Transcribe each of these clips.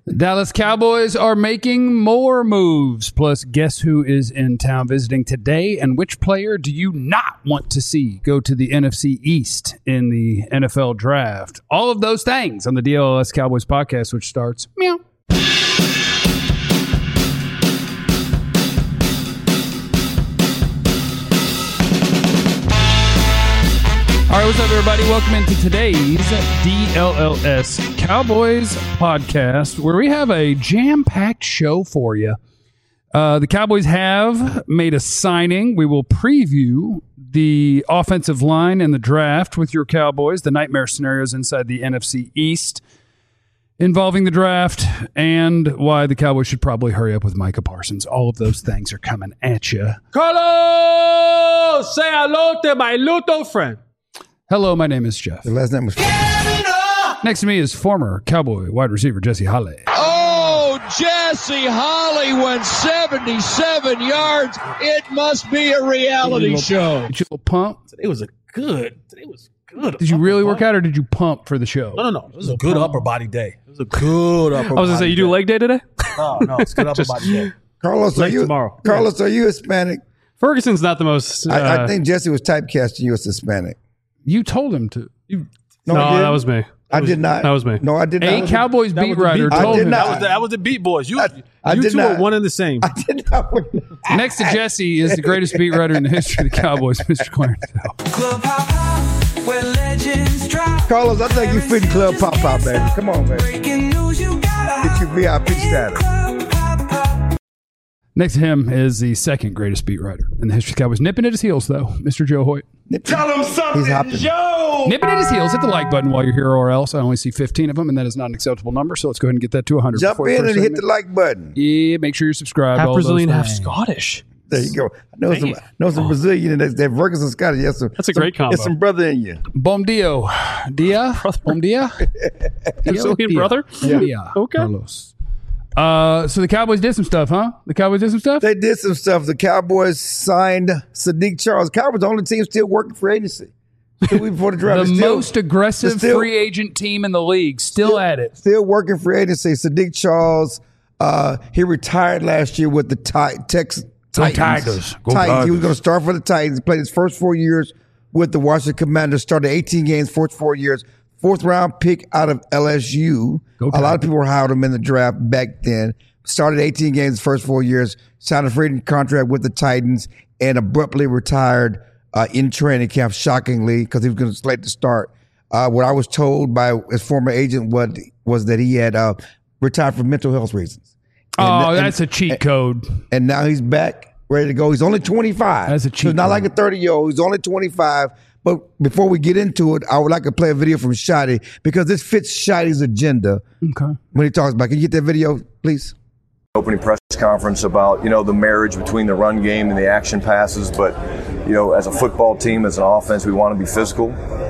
Dallas Cowboys are making more moves. Plus, guess who is in town visiting today, and which player do you not want to see go to the NFC East in the NFL Draft? All of those things on the DLS Cowboys podcast, which starts meow. All right, what's up, everybody? Welcome into today's DLLS Cowboys podcast, where we have a jam-packed show for you. The Cowboys have made a signing. We will preview the offensive line and the draft with your Cowboys, the nightmare scenarios inside the NFC East involving the draft, and why the Cowboys should probably hurry up with Micah Parsons. All of those things are coming at you. Carlos, say hello to my little friend. Hello, my name is Jeff. The last name was... Next to me is former Cowboy wide receiver Jesse Holley. Oh, Jesse Holley went 77 yards. It must be a reality show. Did you pump? Today was good. Did you really work out, or did you pump for the show? No. It was a good upper body day. It was a good upper body day. I was going to say, you do leg day today? No, it's good upper body day. Carlos, are you Hispanic? Ferguson's not the most... I think Jesse was typecasting you as Hispanic. You told him to. No, that was me. I did not. That was me. No, I did not. A Cowboys beat writer I told did him. not. That was the Beat Boys. You did two not. are one and the same. I did not. Next to Jesse is the greatest beat writer in the history of the Cowboys, Mr. Clarence Hill. Carlos, I think you fit Club Pop Pop, baby. Come on, baby. Get your VIP status. Next to him is the second greatest beat writer in the history of the Cowboys. Nipping at his heels, though, Mr. Joe Hoyt. Tell him something, Joe! Nipping at his heels. Hit the like button while you're here, or else. I only see 15 of them, and that is not an acceptable number, so let's go ahead and get that to 100. Jump in and hit the like button. Yeah, make sure you're subscribed. Half all Brazilian, those half things. Scottish. There you go. I know some Brazilian and that Ferguson Scottish. Yes, That's a great combo. There's some brother in you. Bom Dio. Dia? Bom Dia? Brazilian brother? Yeah. Okay. Carlos. So the Cowboys did some stuff, huh? They did some stuff. The Cowboys signed Sadiq Charles. Cowboys the only team still working for agency. 2 weeks before the draft. The most aggressive free agent team in the league. Still at it. Still working for agency. Sadiq Charles, he retired last year with the Texas Titans. He was going to start for the Titans. Played his first 4 years with the Washington Commanders. Started 18 games, first 4 years. 4th round pick out of LSU. A lot of people were high on him in the draft back then. Started 18 games, first 4 years. Signed a free agent contract with the Titans and abruptly retired in training camp, shockingly, because he was going to slate to start. What I was told by his former agent was that he had retired for mental health reasons. That's a cheat code. And now he's back, ready to go. He's only 25. That's a cheat So he's not code. like a 30-year-old. He's only 25. But before we get into it, I would like to play a video from Shotty because this fits Shotty's agenda. Okay. When he talks about, can you get that video, please? Opening press conference about, the marriage between the run game and the action passes. But, as a football team, as an offense, we want to be physical.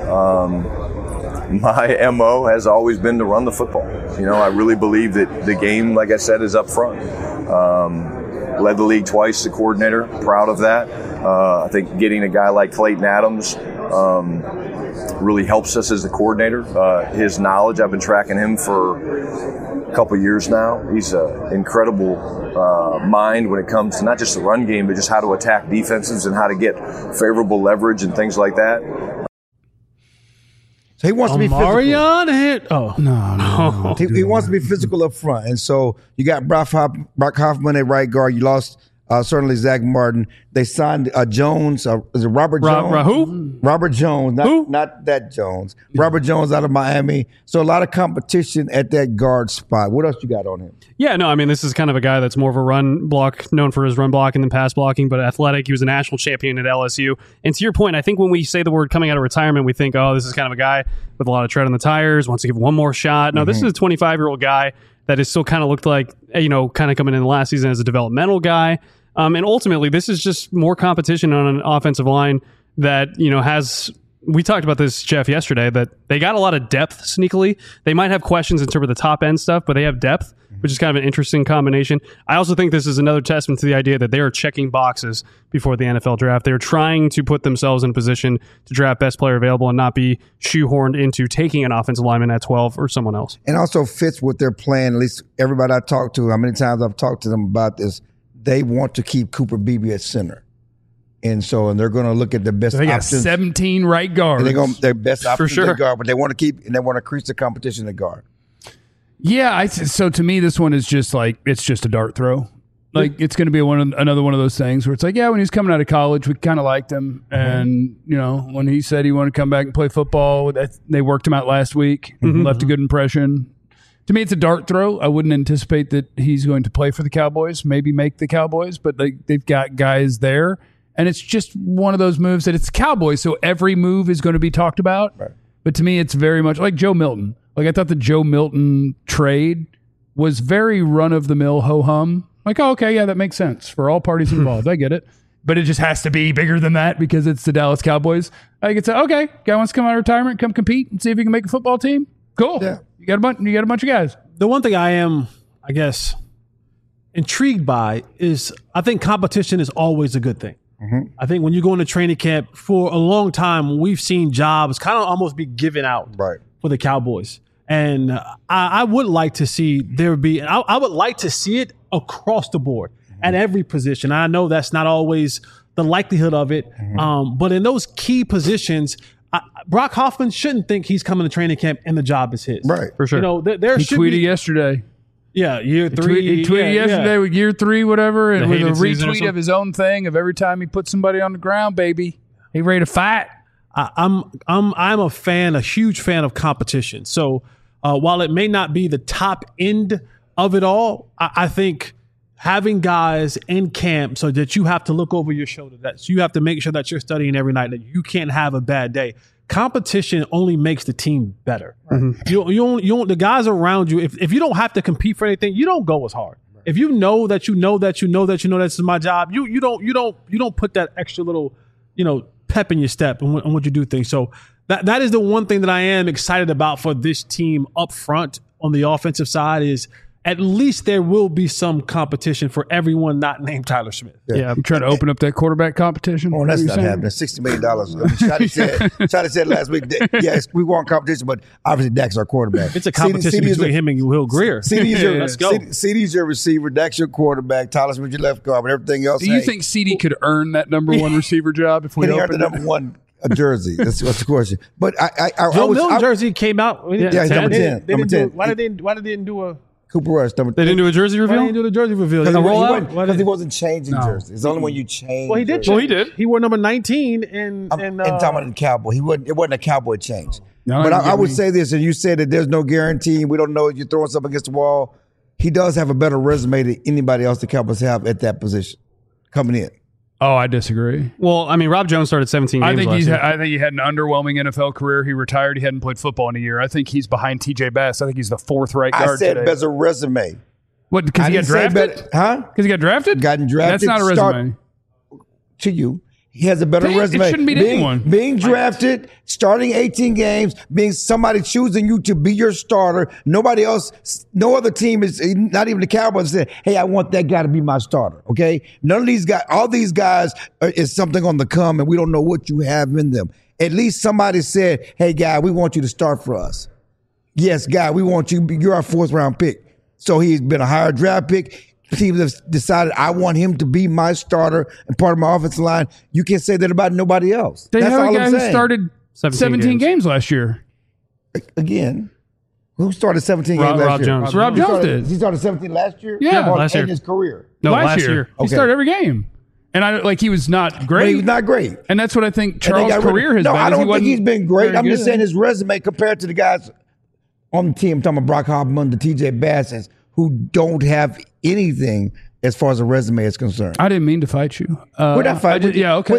My MO has always been to run the football. I really believe that the game, like I said, is up front. Led the league twice as a coordinator. Proud of that. I think getting a guy like Clayton Adams really helps us as the coordinator. His knowledge, I've been tracking him for a couple years now. He's an incredible mind when it comes to not just the run game, but just how to attack defenses and how to get favorable leverage and things like that. So he wants to be physical. Marion hit. Oh. No. He wants to be physical up front. And so you got Brock Hoffman at right guard. You lost certainly Zach Martin. They signed Jones. Is it Robert Jones? Who? Robert Jones. Not that Jones. Robert Jones out of Miami. So a lot of competition at that guard spot. What else you got on him? Yeah, no, I mean, this is kind of a guy that's more of a run block, known for his run blocking than pass blocking, but athletic. He was a national champion at LSU. And to your point, I think when we say the word coming out of retirement, we think, oh, this is kind of a guy with a lot of tread on the tires, wants to give one more shot. No, this is a 25-year-old guy that is still kind of looked like, kind of coming in the last season as a developmental guy. And ultimately, this is just more competition on an offensive line that, has... We talked about this, Jeff, yesterday, that they got a lot of depth sneakily. They might have questions in terms of the top end stuff, but they have depth. which is kind of an interesting combination. I also think this is another testament to the idea that they are checking boxes before the NFL draft. They're trying to put themselves in a position to draft best player available and not be shoehorned into taking an offensive lineman at 12 or someone else. And also fits with their plan. At least everybody I talked to, how many times I've talked to them about this, they want to keep Cooper Beebe at center. And they're going to look at the best They got options. 17 right guards. And their best options sure. at guard, but they want to keep and they want to increase the competition at guard. Yeah, so to me, this one is just like, it's just a dart throw. Like, it's going to be another one of those things where it's like, yeah, when he was coming out of college, we kind of liked him. And, when he said he wanted to come back and play football, they worked him out last week, left a good impression. To me, it's a dart throw. I wouldn't anticipate that he's going to play for the Cowboys, maybe make the Cowboys, but they've got guys there. And it's just one of those moves that it's Cowboys, so every move is going to be talked about. Right. But to me, it's very much like Joe Milton. Like, I thought the Joe Milton trade was very run-of-the-mill ho-hum. Like, oh, okay, yeah, that makes sense for all parties involved. I get it. But it just has to be bigger than that because it's the Dallas Cowboys. I could say, okay, guy wants to come out of retirement, come compete and see if he can make a football team. Cool. Yeah. You got a bunch of guys. The one thing I am, I guess, intrigued by is I think competition is always a good thing. Mm-hmm. I think when you go into training camp, for a long time, we've seen jobs kind of almost be given out for the Cowboys. And I would like to see there be, I would like to see it across the board at every position. I know that's not always the likelihood of it, but in those key positions, Brock Hoffman shouldn't think he's coming to training camp and the job is his. Right, for sure. There he should tweeted be yesterday. Yeah, year 3. He tweeted yesterday with year 3, whatever, and with a retweet of his own thing of every time he puts somebody on the ground, baby, he ready to fight. I'm a huge fan of competition. So while it may not be the top end of it all, I think having guys in camp so that you have to look over your shoulder, that you have to make sure that you're studying every night, that you can't have a bad day. Competition only makes the team better. Mm-hmm. You the guys around you. If you don't have to compete for anything, you don't go as hard. Right. If you know that this is my job, you don't put that extra little pep in your step and what you do things. So that is the one thing that I am excited about for this team up front on the offensive side is at least there will be some competition for everyone not named Tyler Smith. Yeah, I'm trying to open up that quarterback competition. Oh, that's not happening. $60 million. Scotty said last week, yes, we want competition, but obviously Dak's our quarterback. It's a competition between him and Will Greer. Let's go. CD's your receiver. Dak's your quarterback. Tyler Smith your left guard, but everything else. Do you think CD could earn that number 1 receiver job if we opened the number 1 jersey? That's the question. But Joe Milton jersey came out. Yeah, he's number 10. Why did they didn't do a Cooper Rush? They didn't do a jersey reveal? Why didn't do the jersey reveal? Because he wasn't changing jerseys. It's only when you change. Well, he did. Well, he did. He wore number 19 and talking about the Cowboy. It wasn't a Cowboy change. No, but I would say this, and you said that there's no guarantee. We don't know if you're throwing something against the wall. He does have a better resume than anybody else the Cowboys have at that position coming in. Oh, I disagree. Well, I mean, Rob Jones started 17 games last year. I think he had an underwhelming NFL career. He retired. He hadn't played football in a year. I think he's behind TJ Bass. I think he's the 4th right guard today. I said as a resume. What, because he got drafted? Because he got drafted? Gotten drafted. That's not a resume. To you. He has a better resume. It shouldn't be to anyone. Being drafted, starting 18 games, being somebody choosing you to be your starter. Nobody else, no other team is, not even the Cowboys, said, hey, I want that guy to be my starter. Okay? None of these guys, all these guys is something on the come, and we don't know what you have in them. At least somebody said, hey, guy, we want you to start for us. Yes, guy, we want you. You're our 4th round pick. So he's been a higher draft pick. Teams have decided I want him to be my starter and part of my offensive line. You can't say that about nobody else. They That's have all a guy I'm who saying. started 17 games last year. Again, who started 17 games last Rob year? Jones. Rob Jones did. He started 17 last year? Yeah, last year. In his career. No, last year. He started every game. And he was not great. But he was not great. And that's what I think Charles' career has been. No, I don't think he's been great. I'm just good. saying his resume compared to the guys on the team, I'm talking about Brock Hoffman, the TJ Bass, who don't have anything as far as a resume is concerned. I didn't mean to fight you. We're not fighting. Yeah, okay.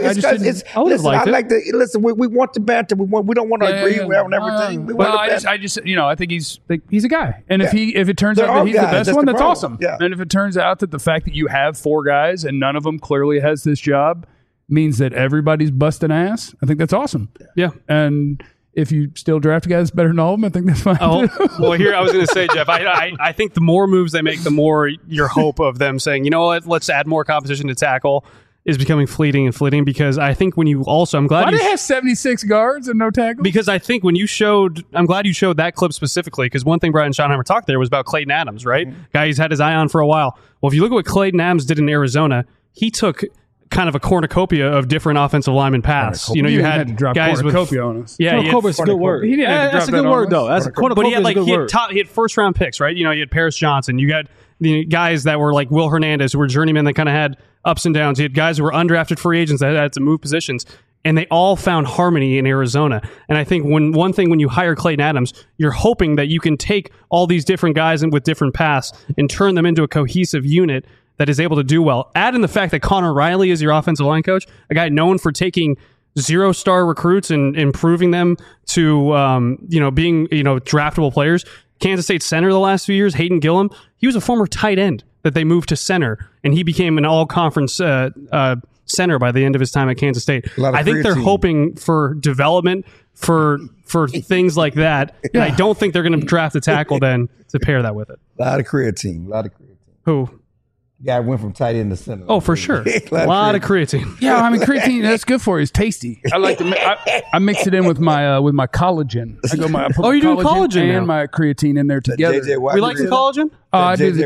Listen, we want the banter. We don't want to agree on everything. I think he's a guy. And if it turns out that he's the best one, that's awesome. Yeah. And if it turns out that the fact that you have 4 guys and none of them clearly has this job means that everybody's busting ass, I think that's awesome. Yeah. And if you still draft a guy that's better than all of them, I think that's fine. Oh, too. well, here I was going to say, Jeff, I think the more moves they make, the more your hope of them saying, you know what, let's add more competition to tackle is becoming fleeting, because I think when you also, I'm glad Why do they have 76 guards and no tackles? Because I think when you showed, I'm glad you showed that clip specifically, because one thing Brian Schottenheimer talked there was about Clayton Adams, right? Guy he's had his eye on for a while. Well, if you look at what Clayton Adams did in Arizona, he took kind of a cornucopia of different offensive lineman paths. You know, you had to drop guys with cornucopia on us. Yeah, cornucopia is a good word. He didn't have to That's a drop good that word, on though. us. But he had first round picks, right? You know, you had Paris Johnson. You got the guys that were like Will Hernandez, who were journeymen that kind of had ups and downs. You had guys who were undrafted free agents that had to move positions, and they all found harmony in Arizona. And I think when you hire Clayton Adams, you're hoping that you can take all these different guys with different paths and turn them into a cohesive unit that is able to do well. Add in the fact that Connor Riley is your offensive line coach, a guy known for taking 0-star recruits and improving them to being draftable players. Kansas State center the last few years, Hayden Gillum, he was a former tight end that they moved to center, and he became an all-conference center by the end of his time at Kansas State. I think they're hoping for development for things like that, and I don't think they're going to draft a tackle then to pair that with it. A lot of creatine. Who? Guy went from tight end to center. Oh, for sure. A lot of creatine. Yeah, I mean, creatine, that's good for you. It's tasty. I like to I mix it in with my collagen. I put you do collagen and my creatine in there together. We like the collagen? I got the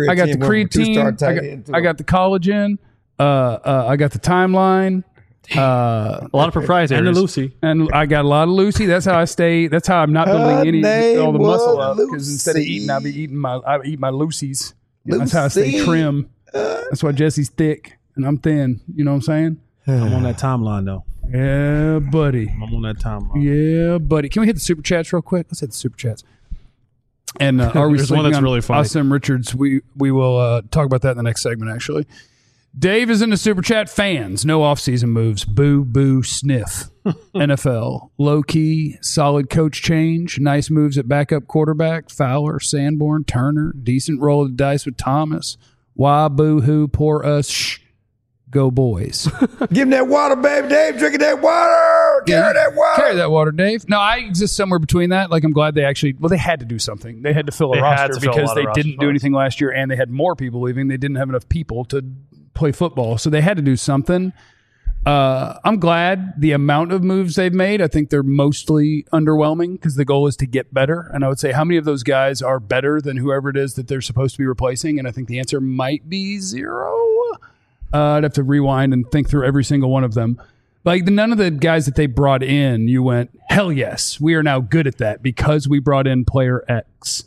creatine. I got the collagen. I got the timeline. A lot of proprietary. And the Lucy. And I got a lot of Lucy. That's how I stay. That's how I'm not building all the muscle up. Because instead of eating, I eat my Lucy's. That's how I stay trim. That's why Jesse's thick and I'm thin. You know what I'm saying? I'm on that timeline, though. Yeah, buddy. I'm on that timeline. Yeah, buddy. Can we hit the super chats real quick? Let's hit the super chats. And are we There's one that's really funny. Awesome Richards. We will talk about that in the next segment, actually. Dave is in the super chat. Fans, no offseason moves. Boo, boo, sniff. NFL, low-key, solid coach change. Nice moves at backup quarterback. Fowler, Sanborn, Turner. Decent roll of the dice with Thomas. Why, boo-hoo, poor us. Shh. Go boys. Give him that water, baby. Dave, drinking that water. Carry that water. Carry that water, Dave. No, I exist somewhere between that. Like, I'm glad they had to do something. They had to fill a roster because they didn't do anything last year, and they had more people leaving. They didn't have enough people to play football, so they had to do something. I'm glad the amount of moves they've made. I think they're mostly underwhelming because the goal is to get better. And I would say, how many of those guys are better than whoever it is that they're supposed to be replacing? And I think the answer might be 0. I'd have to rewind and think through every single one of them. Like, none of the guys that they brought in, you went, hell yes, we are now good at that because we brought in player X.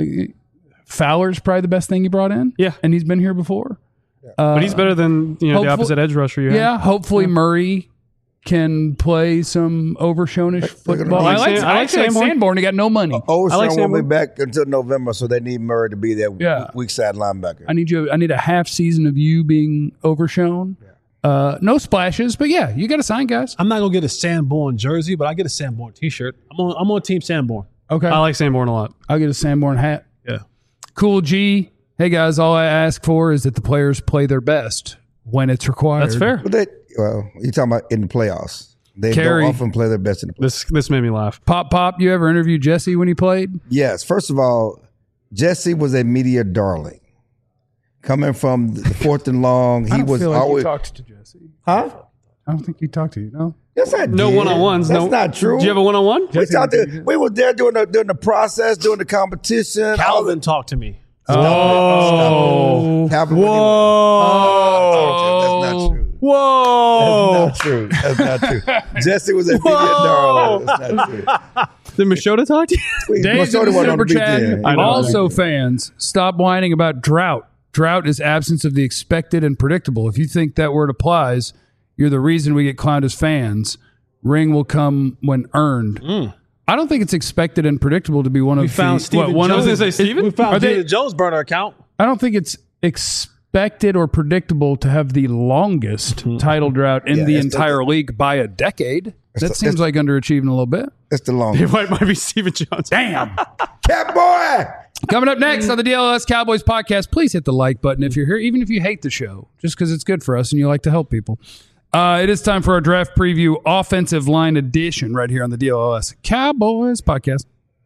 Fowler's probably the best thing you brought in. Yeah. And he's been here before. But he's better than the opposite edge rusher you have. Yeah, hopefully Murray can play some Overshone-ish football. I like Sanborn. He got no money. Overshone won't be back until November, so they need Murray to be that weak side linebacker. I need a half season of you being Overshone. No splashes, but yeah, you got to sign guys. I'm not gonna get a Sanborn jersey, but I get a Sanborn T-shirt. I'm on Team Sanborn. Okay, I like Sanborn a lot. I'll get a Sanborn hat. Yeah, Cool G. Hey guys, all I ask for is that the players play their best when it's required. That's fair. But you're talking about in the playoffs. They don't often play their best in the playoffs. This made me laugh. Pop, you ever interviewed Jesse when he played? Yes. First of all, Jesse was a media darling. Coming from the fourth and long, he was always. You talked to Jesse. Huh? I don't think he talked to you. No. Yes, I did. No one-on-ones. That's not true. Did you have a one-on-one? We were there during the process, during the competition. Calvin talked to me. Oh. Calvin That's not true. Whoa. That's not true. Jesse was a media darling. That's not true. Did Machota talk to you? Dave's in the super chat. Also, fans, stop whining about drought. Drought is absence of the expected and predictable. If you think that word applies, you're the reason we get clowned as fans. Ring will come when earned. I don't think it's expected and predictable to be one of We found Steven Jones. We found David Jones burner account. I don't think it's expected or predictable to have the longest title drought in the entire league by a decade. That seems like underachieving a little bit. It's the longest. It might be Steven Jones. Damn. Cat boy. Coming up next on the DLS Cowboys podcast, please hit the like button if you're here, even if you hate the show, just because it's good for us and you like to help people. It is time for our draft preview offensive line edition right here on the DLLS Cowboys podcast.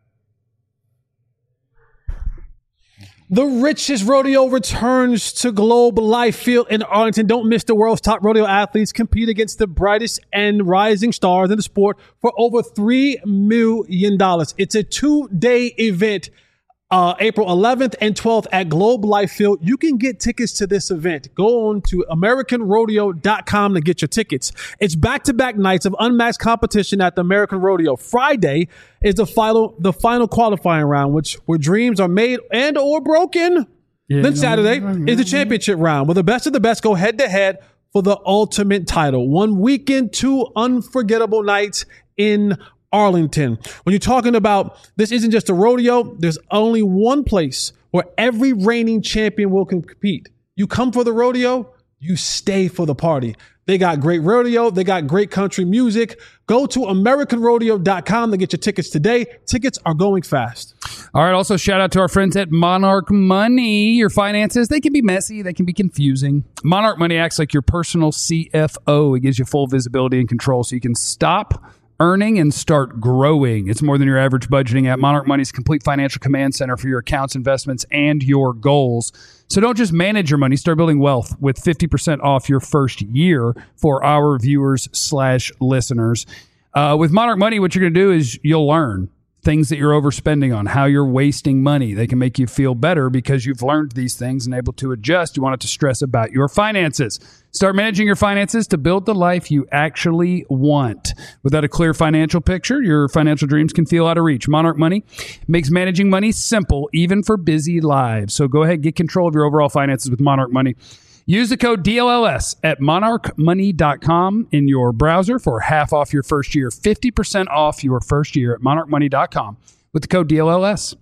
The richest rodeo returns to Globe Life Field in Arlington. Don't miss the world's top rodeo athletes compete against the brightest and rising stars in the sport for over $3 million. It's a 2-day event, April 11th and 12th at Globe Life Field. You can get tickets to this event. Go on to AmericanRodeo.com to get your tickets. It's back-to-back nights of unmatched competition at the American Rodeo. Friday is the final qualifying round, where dreams are made and or broken. Then Saturday is the championship round, where the best of the best go head-to-head for the ultimate title. 1 weekend, 2 unforgettable nights in Arlington. When you're talking about this isn't just a rodeo, there's only one place where every reigning champion will compete. You come for the rodeo, you stay for the party. They got great rodeo. They got great country music. Go to AmericanRodeo.com to get your tickets today. Tickets are going fast. All right. Also, shout out to our friends at Monarch Money. Your finances, they can be messy. They can be confusing. Monarch Money acts like your personal CFO. It gives you full visibility and control so you can stop earning and start growing. It's more than your average budgeting app. Monarch Money's complete financial command center for your accounts, investments, and your goals. So don't just manage your money. Start building wealth with 50% off your first year for our viewers/listeners. With Monarch Money, what you're going to do is you'll learn things that you're overspending on, how you're wasting money. They can make you feel better because you've learned these things and able to adjust. You want it to stress about your finances. Start managing your finances to build the life you actually want. Without a clear financial picture, your financial dreams can feel out of reach. Monarch Money makes managing money simple, even for busy lives. So go ahead, get control of your overall finances with Monarch Money. Use the code DLLS at monarchmoney.com in your browser for half off your first year. 50% off your first year at monarchmoney.com with the code DLLS.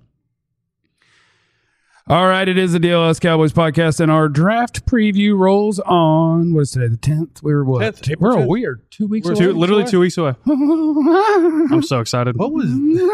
All right, it is the DLS Cowboys podcast, and our draft preview rolls on, what is today, the 10th? We're what? 10th, We are 2 weeks away. Literally 2 weeks away. I'm so excited. What are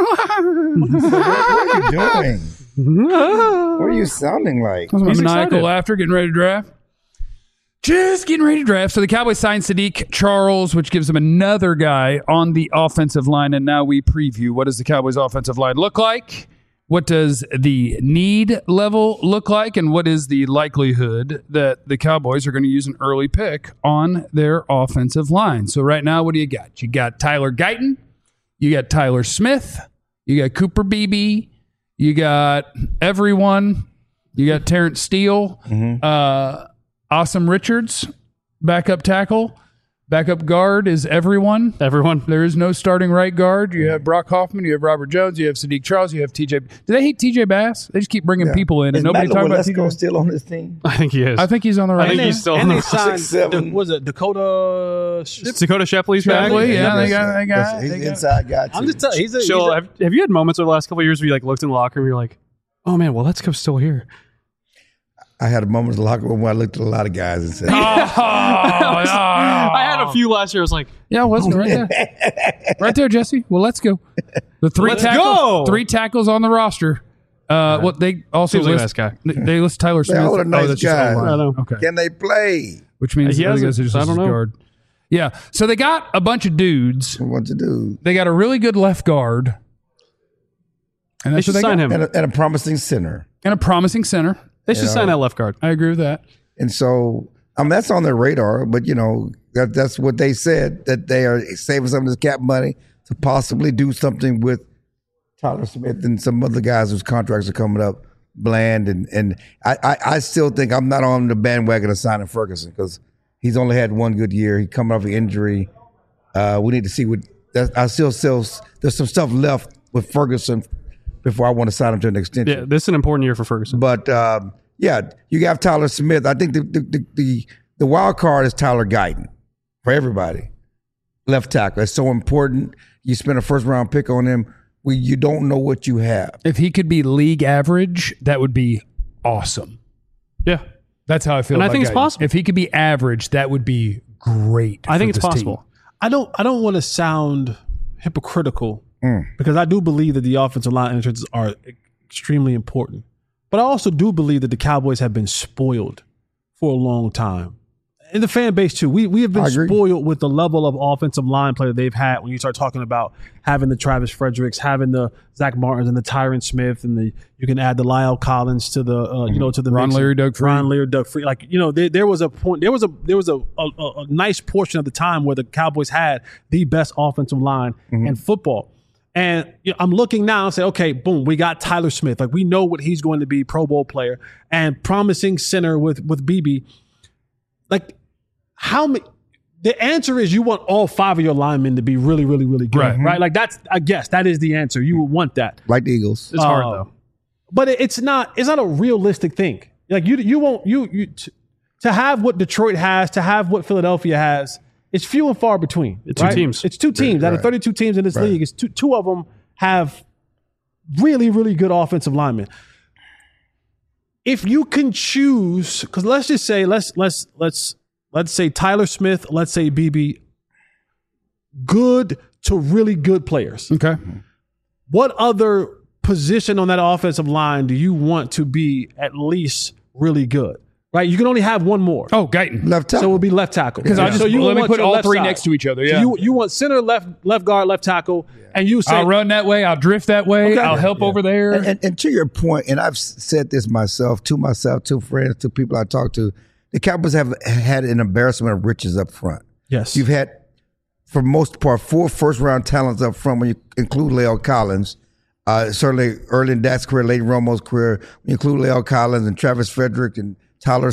you doing? What are you sounding like? That's my maniacal laughter, getting ready to draft. Just getting ready to draft. So the Cowboys signed Sadiq Charles, which gives them another guy on the offensive line. And now we preview, what does the Cowboys offensive line look like? What does the need level look like? And what is the likelihood that the Cowboys are going to use an early pick on their offensive line? So right now, what do you got? You got Tyler Guyton. You got Tyler Smith. You got Cooper Beebe. You got everyone. You got Terrence Steele. Awesome Richards, backup tackle. Backup guard is everyone. There is no starting right guard. You have Brock Hoffman. You have Robert Jones. You have Sadiq Charles. You have TJ. Do they hate TJ Bass? They just keep bringing people in, and nobody talks about TJ. Still on this team? I think he is. I think he's on the right. I think he's still on the signed, 6'7". Was it Dakota? Dakota Shepley's back. Yeah, they got. He's an inside guy too. I'm just telling you. So have you had moments over the last couple of years where you looked in the locker room and you're like, oh man, well, let's go still here. I had a moment in the locker room where I looked at a lot of guys and said, I had a few last year. I was like, yeah, wasn't right there. Right there, Jesse. Well, let's go. The three tackles on the roster. What they also seems like list, a nice guy. They list Tyler Smith. all are nice guys. Okay. Can they play? Which means the other guys are just I don't know. guard. Yeah. So they got a bunch of dudes. What to do? They got a really good left guard. And They should sign him. And a promising center. And a promising center. They should sign that left guard. I agree with that. And so, that's on their radar, but that's what they said, that they are saving some of this cap money to possibly do something with Tyler Smith and some other guys whose contracts are coming up, Bland. And I still think I'm not on the bandwagon of signing Ferguson because he's only had one good year. He coming off an injury. We need to see I still there's some stuff left with Ferguson before I want to sign him to an extension. Yeah, this is an important year for Ferguson. But you have Tyler Smith. I think the wild card is Tyler Guyton for everybody. Left tackle. It's so important. You spend a first round pick on him. You don't know what you have. If he could be league average, that would be awesome. Yeah. That's how I feel. And about I think Guyton. it's possible. If he could be average, that would be great. I think it's possible. Team. I don't want to sound hypocritical because I do believe that the offensive line entrances are extremely important. But I also do believe that the Cowboys have been spoiled for a long time. and the fan base too. We have been spoiled with the level of offensive line play that they've had. When you start talking about having the Travis Fredericks, having the Zach Martins and the Tyron Smith, and you can add the Lyle Collins to the to the Ron Leary, Doug Free. Like there was a point. There was a nice portion of the time where the Cowboys had the best offensive line in football. And I'm looking now and say, okay, boom, we got Tyler Smith. Like we know what he's going to be, Pro Bowl player and promising center with BB. Like how many? The answer is you want all 5 of your linemen to be really, really, really good, right? Like I guess that is the answer. You would want that, like the Eagles. It's hard though, but it's not a realistic thing. Like you won't to have what Detroit has, to have what Philadelphia has. It's few and far between. It's two teams. It's two teams. Out of 32 teams in this league, it's two of them have really, really good offensive linemen. If you can choose, because let's just say let's say Tyler Smith, let's say BB, good to really good players. Okay. What other position on that offensive line do you want to be at least really good? Right, you can only have one more. Oh, Guyton, left tackle. So it would be left tackle. Because let me put all three next to each other. Yeah, so you want center, left guard, left tackle, and you say I'll run that way, I'll drift that way, okay. I'll help over there. And to your point, and I've said this to friends, to people I talk to, the Cowboys have had an embarrassment of riches up front. Yes, you've had, for the most part, 4 first-round talents up front when you include La'el Collins. Certainly early in Dak's career, late in Romo's career, when you include La'el Collins and Travis Frederick and Tyron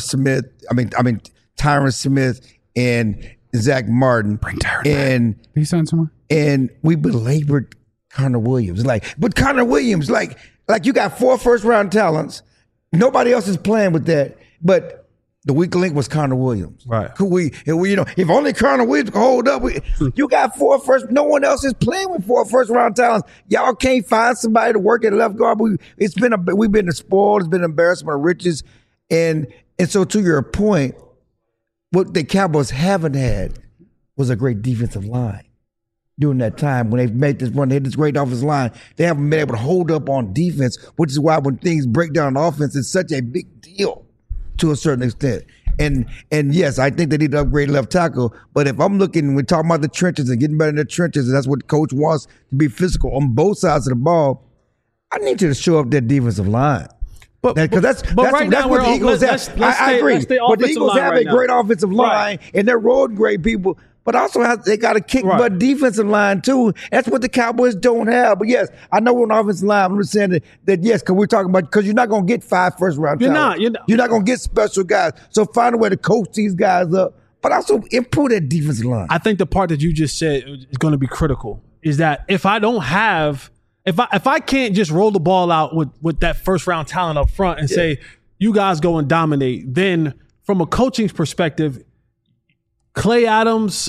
Smith and Zach Martin. Bring Tyron and back. Did he sign somewhere? And we belabored Connor Williams. But Connor Williams, like you got 4 first-round talents. Nobody else is playing with that. But the weak link was Connor Williams. Right. If only Connor Williams could hold up, you got 4 first. No one else is playing with 4 first-round talents. Y'all can't find somebody to work at left guard. We've been spoiled. It's been an embarrassment of riches. And so to your point, what the Cowboys haven't had was a great defensive line during that time when they've made this run. They had this great offensive line. They haven't been able to hold up on defense, which is why when things break down on offense, it's such a big deal to a certain extent. And yes, I think they need to upgrade left tackle. But if I'm looking, we're talking about the trenches and getting better in the trenches, and that's what the coach wants, to be physical on both sides of the ball, I need you to show up that defensive line. But that's what the Eagles have. I agree. But the Eagles have a great offensive line, and they're road great people. But also they got a kick butt defensive line too. That's what the Cowboys don't have. But yes, I know we're on offensive line. I'm just saying that yes, because we're talking about, because you're not going to get 5 first-round talents. You're not going to get special guys. So find a way to coach these guys up, but also improve that defensive line. I think the part that you just said is going to be critical is that if I don't have. If I can't just roll the ball out with that first round talent up front and say, you guys go and dominate, then from a coaching perspective, Clayton Adams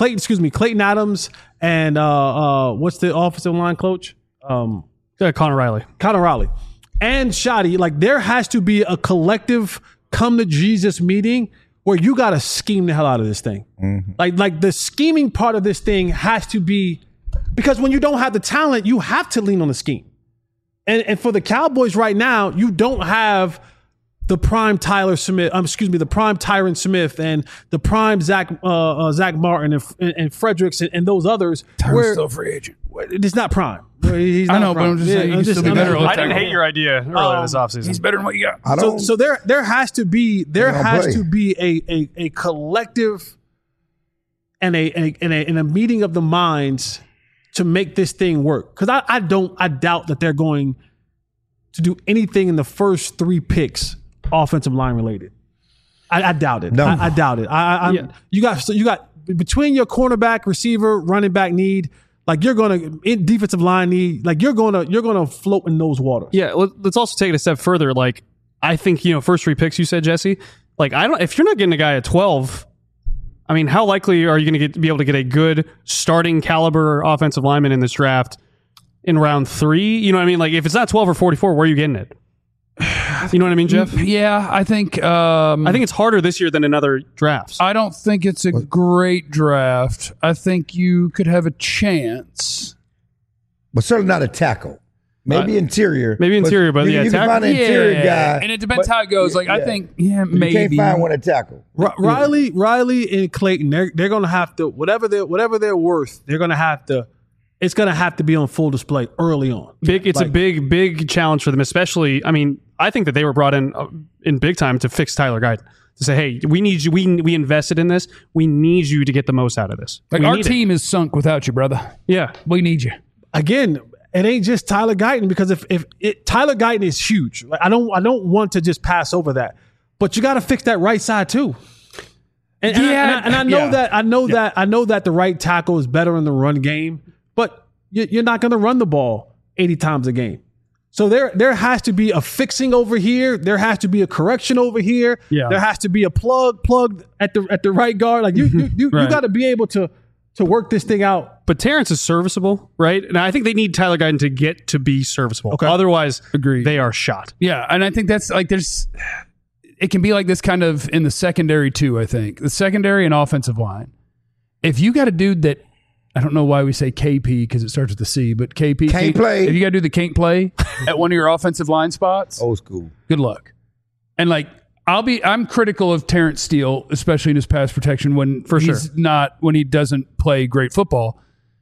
and what's the offensive line coach? Connor Riley. And Shoddy, like there has to be a collective come to Jesus meeting where you got to scheme the hell out of this thing. Mm-hmm. Like the scheming part of this thing has to be, because when you don't have the talent, you have to lean on the scheme. And for the Cowboys right now, you don't have the prime the prime Tyron Smith and the prime Zach Martin and Fredericks and those others. Tyron's still a free agent. It's not prime. He's not prime. But I'm just saying he can still be better. I didn't hate your idea earlier this offseason. He's better than what you got. So there has to be a collective and a meeting of the minds to make this thing work. Because I doubt that they're going to do anything in the first 3 picks offensive line related. I doubt it. No. I doubt it. You got between your cornerback, receiver, running back need, like you're gonna in defensive line need, like you're gonna float in those waters. Yeah, let's also take it a step further. Like I think first 3 picks you said, Jesse. Like if you're not getting a guy at 12. I mean, how likely are you going to be able to get a good starting caliber offensive lineman in this draft in round 3? You know what I mean? Like, if it's not 12 or 44, where are you getting it? You know what I mean, Jeff? Yeah, I think it's harder this year than in other drafts. I don't think it's a great draft. I think you could have a chance, but certainly not a tackle. Maybe interior. Maybe interior, but you can find an interior guy. And it depends how it goes. Like, I think, maybe. You can't find one to tackle. Riley and Clayton, they're going to have to, whatever they're worth, they're going to have to, it's going to have to be on full display early on. It's a big challenge for them, especially, I mean, I think that they were brought in big time to fix Tyler Guyton. To say, hey, we need you. We invested in this. We need you to get the most out of this. Like, our team is sunk without you, brother. Yeah. We need you. Again, it ain't just Tyler Guyton, because if Tyler Guyton is huge. Like, I don't want to just pass over that, but you got to fix that right side too. And I know that the right tackle is better in the run game, but you're not going to run the ball 80 times a game. So there has to be a fixing over here. There has to be a correction over here. Yeah. There has to be a plugged at the right guard. Like you Right. got to be able to work this thing out. But Terrence is serviceable, right? And I think they need Tyler Guyton to get to be serviceable. Okay. Otherwise, Agreed. they are shot. Yeah, and I think that's like it can be like this kind of in the secondary too, I think. The secondary and offensive line. If you got a dude that, I don't know why we say KP because it starts with the C, but KP. Can't play. If you got to do the can't play at one of your offensive line spots, Old school. good luck. And like, I'm critical of Terrence Steele, especially in his pass protection when he doesn't play great football.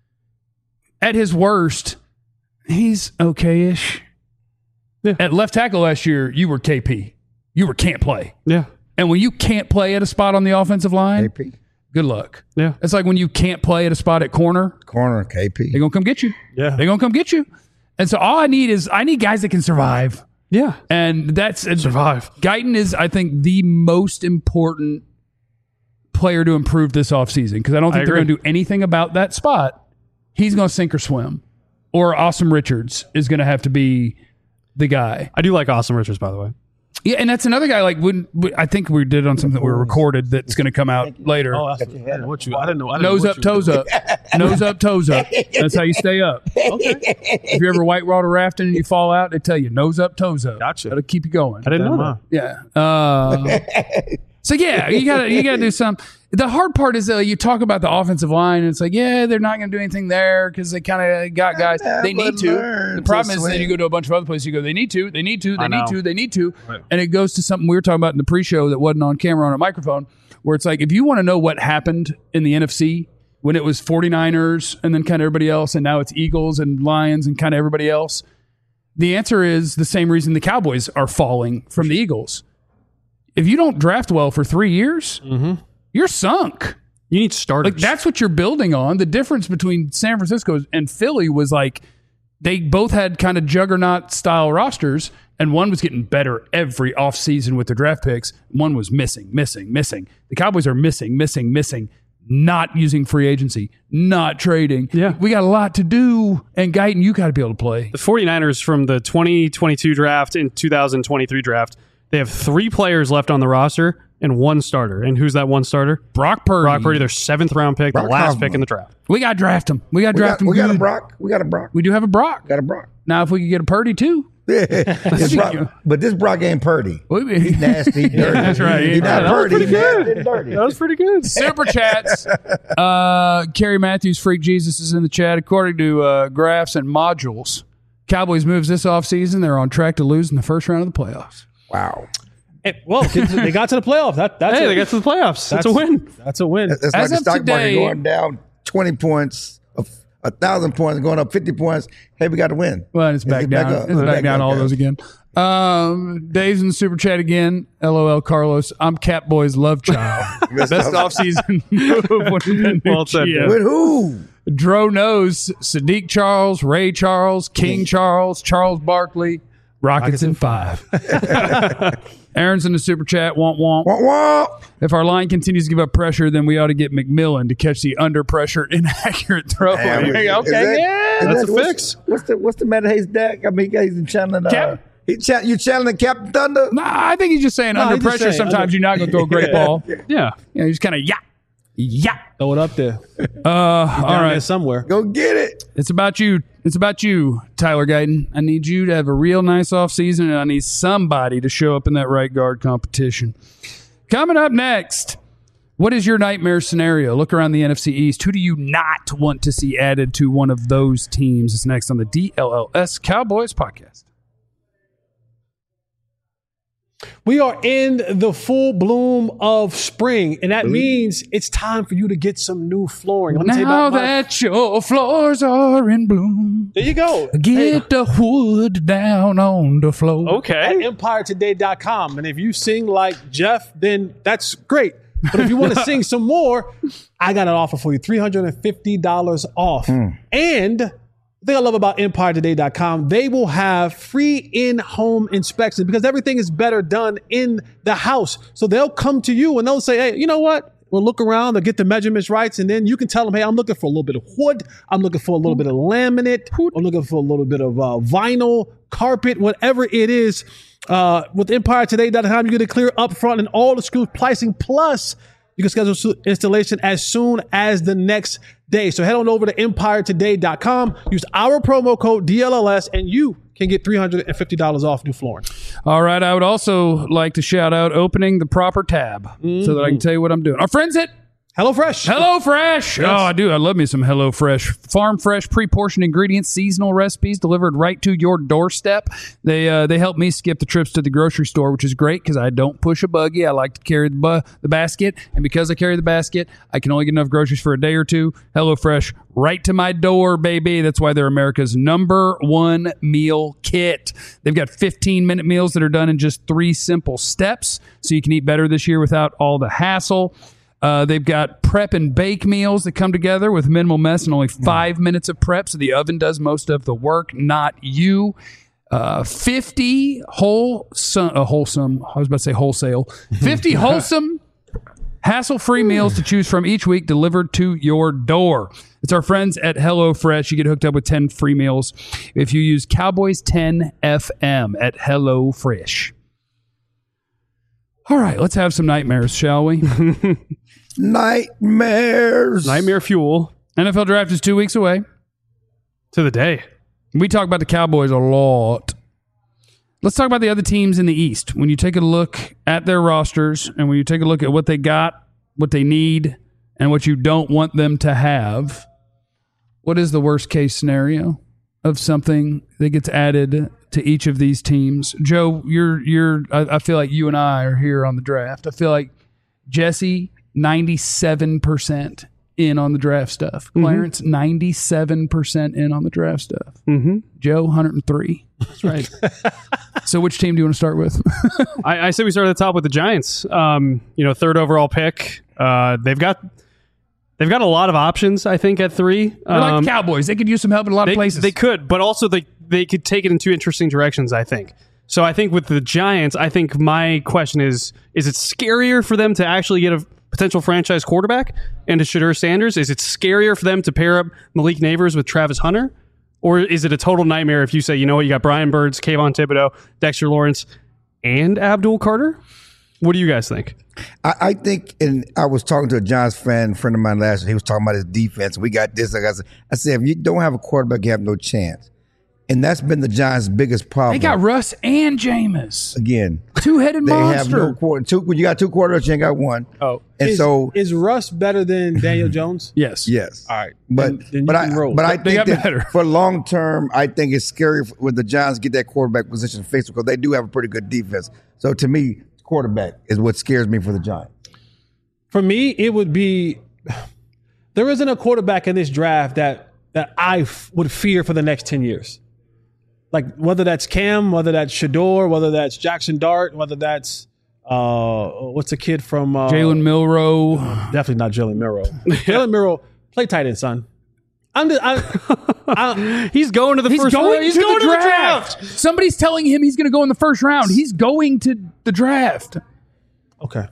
At his worst, he's okay-ish. Yeah. At left tackle last year, you were KP. You were can't play. Yeah. And when you can't play at a spot on the offensive line, KP. good luck. Yeah. It's like when you can't play at a spot at corner, KP. they're going to come get you. Yeah. They're going to come get you. And so all I need guys that can survive. Yeah. And that's Survive. Guyton is, I think, the most important player to improve this offseason because I don't think they're going to do anything about that spot. He's going to sink or swim. Or Awesome Richards is going to have to be the guy. I do like Awesome Richards, by the way. Yeah, and that's another guy. Like, I think we did on something that we recorded that's going to come out later. Oh, I didn't know. Nose up, toes up. Nose up, toes up. That's how you stay up. Okay. If you're ever whitewater rafting and you fall out, they tell you nose up, toes up. Gotcha. That'll keep you going. I didn't know that. Yeah. So yeah, you gotta do something. The hard part is you talk about the offensive line, and it's like, yeah, they're not going to do anything there because they kind of got guys. They need to. The problem is then you go to a bunch of other places. You go, they need to, they need to. Right. And it goes to something we were talking about in the pre-show that wasn't on camera on a microphone, where it's like, if you want to know what happened in the NFC when it was 49ers and then kind of everybody else, and now it's Eagles and Lions and kind of everybody else, the answer is the same reason the Cowboys are falling from the Eagles. If you don't draft well for 3 years, you're sunk. You need starters. Like, that's what you're building on. The difference between San Francisco and Philly was like they both had kind of juggernaut style rosters, and one was getting better every offseason with their draft picks. One was missing. The Cowboys are missing, not using free agency, not trading. Yeah. We got a lot to do, and Guyton, you got to be able to play. The 49ers from the 2022 draft and 2023 draft, they have 3 players left on the roster and 1 starter. And who's that 1 starter? Brock Purdy. Their 7th round pick, the last pick in the draft. We got to draft him. We got a good. Brock. We got a Brock. We do have a Brock. Got a Brock. Now, if we could get a Purdy too. But this Brock ain't Purdy. He's nasty, dirty. That's right. He's not Purdy. He's nasty and dirty. That was pretty good. Super chats. Kerry Matthews, Freak Jesus is in the chat. According to graphs and modules, Cowboys moves this offseason. They're on track to lose in the first round of the playoffs. Wow. Well, they got to the playoff. They got to the playoffs. That's a win. That's a win. That's like As the of stock today- market going down 20 points, 1,000 points, going up 50 points. Hey, we got to win. Well, it's back down. up. It's back down all up. those again. Dave's in the super chat again. LOL, Carlos. I'm Catboy's love child. Best offseason move. Well said, Yeah. With who? Dro knows Sadiq Charles, Ray Charles, King Charles, Charles Barkley, Rockets in 5. Aaron's in the super chat. Womp womp. Wah, wah. If our line continues to give up pressure, then we ought to get McMillan to catch the under pressure inaccurate throw. Damn, Okay, is that- That's a what's- fix. What's the Matt Hayes deck? I mean, he's channeling. You channeling Captain Thunder? Nah, I think he's just saying under he's just pressure. saying Sometimes you're not going to throw a great ball. Yeah. You just kind of yeah. Throw it up there. All Down right. there somewhere. Go get it. It's about you. It's about you, Tyler Guyton. I need you to have a real nice offseason, and I need somebody to show up in that right guard competition. Coming up next, What is your nightmare scenario? Look around the NFC East. Who do you not want to see added to one of those teams? It's next on the DLLS Cowboys podcast. We are in the full bloom of spring, and that means it's time for you to get some new flooring. Now that your floors are in bloom. There you go. Get the wood down on the floor. Okay. At EmpireToday.com. And if you sing like Jeff, then that's great. But if you want to sing some more, I got an offer for you, $350 off. And the thing I love about EmpireToday.com, they will have free in-home inspection because everything is better done in the house. So they'll come to you and they'll say, hey, you know what? We'll look around, they'll get the measurements right, and then you can tell them, hey, I'm looking for a little bit of wood. I'm looking for a little bit of laminate. I'm looking for a little bit of vinyl, carpet, whatever it is. With EmpireToday.com, you get it clear up front and all the screw pricing. Plus, you can schedule installation as soon as the next day. So head on over to EmpireToday.com. Use our promo code DLLS, and you can get $350 off new flooring. All right. I would also like to shout out opening the proper tab so that I can tell you what I'm doing. Our friends at HelloFresh. HelloFresh. Yes. Oh, I do. I love me some HelloFresh. Farm fresh, pre-portioned ingredients, seasonal recipes delivered right to your doorstep. They help me skip the trips to the grocery store, which is great because I don't push a buggy. I like to carry the basket. And because I carry the basket, I can only get enough groceries for a day or two. HelloFresh right to my door, baby. That's why they're America's #1 meal kit. They've got 15-minute meals that are done in just 3 simple steps, so you can eat better this year without all the hassle. They've got prep and bake meals that come together with minimal mess and only 5 minutes of prep, so the oven does most of the work, not you. 50 wholesome, I was about to say wholesale, 50 wholesome, hassle-free meals to choose from each week delivered to your door. It's our friends at HelloFresh. You get hooked up with 10 free meals if you use Cowboys10FM at HelloFresh. All right, let's have some nightmares, shall we? Nightmares. Nightmare fuel. NFL draft is 2 weeks away. To the day. We talk about the Cowboys a lot. Let's talk about the other teams in the East. When you take a look at their rosters and when you take a look at what they got, what they need, and what you don't want them to have, what is the worst case scenario of something that gets added to each of these teams? Joe, I feel like you and I are here on the draft. I feel like Jesse, 97% in on the draft stuff. Clarence, 97% in on the draft stuff. Joe, 103. That's right. So which team do you want to start with? I say we start at the top with the Giants. 3rd overall pick. They've got a lot of options, I think, at 3. They're like the Cowboys. They could use some help in a lot of places. They could, but also they could take it in 2 interesting directions, I think. So I think with the Giants, I think my question is it scarier for them to actually get a potential franchise quarterback and to Shadur Sanders? Is it scarier for them to pair up Malik Nabers with Travis Hunter? Or is it a total nightmare if you say, you know what, you got Brian Burns, Kayvon Thibodeau, Dexter Lawrence, and Abdul Carter? What do you guys think? I think, and I was talking to a Giants friend of mine last year. He was talking about his defense. We got this. I said, if you don't have a quarterback, you have no chance. And that's been the Giants' biggest problem. They got Russ and Jameis. Again. Two-headed monster. They have no when you got 2 quarterbacks, you ain't got 1. Oh. And is Russ better than Daniel Jones? Yes. All right. But I think that for long term, I think it's scary when the Giants get that quarterback position fixed because they do have a pretty good defense. So to me, quarterback is what scares me for the Giants. For me, it would be there isn't a quarterback in this draft that I would fear for the next 10 years. Like whether that's Cam, whether that's Shador, whether that's Jackson Dart, whether that's what's the kid from Jalen Milroe? Definitely not Jalen Milroe. Jalen Milroe, play tight end, son. He's going to the first round. He's going to the draft. Somebody's telling him he's going to go in the first round. He's going to the draft. Okay.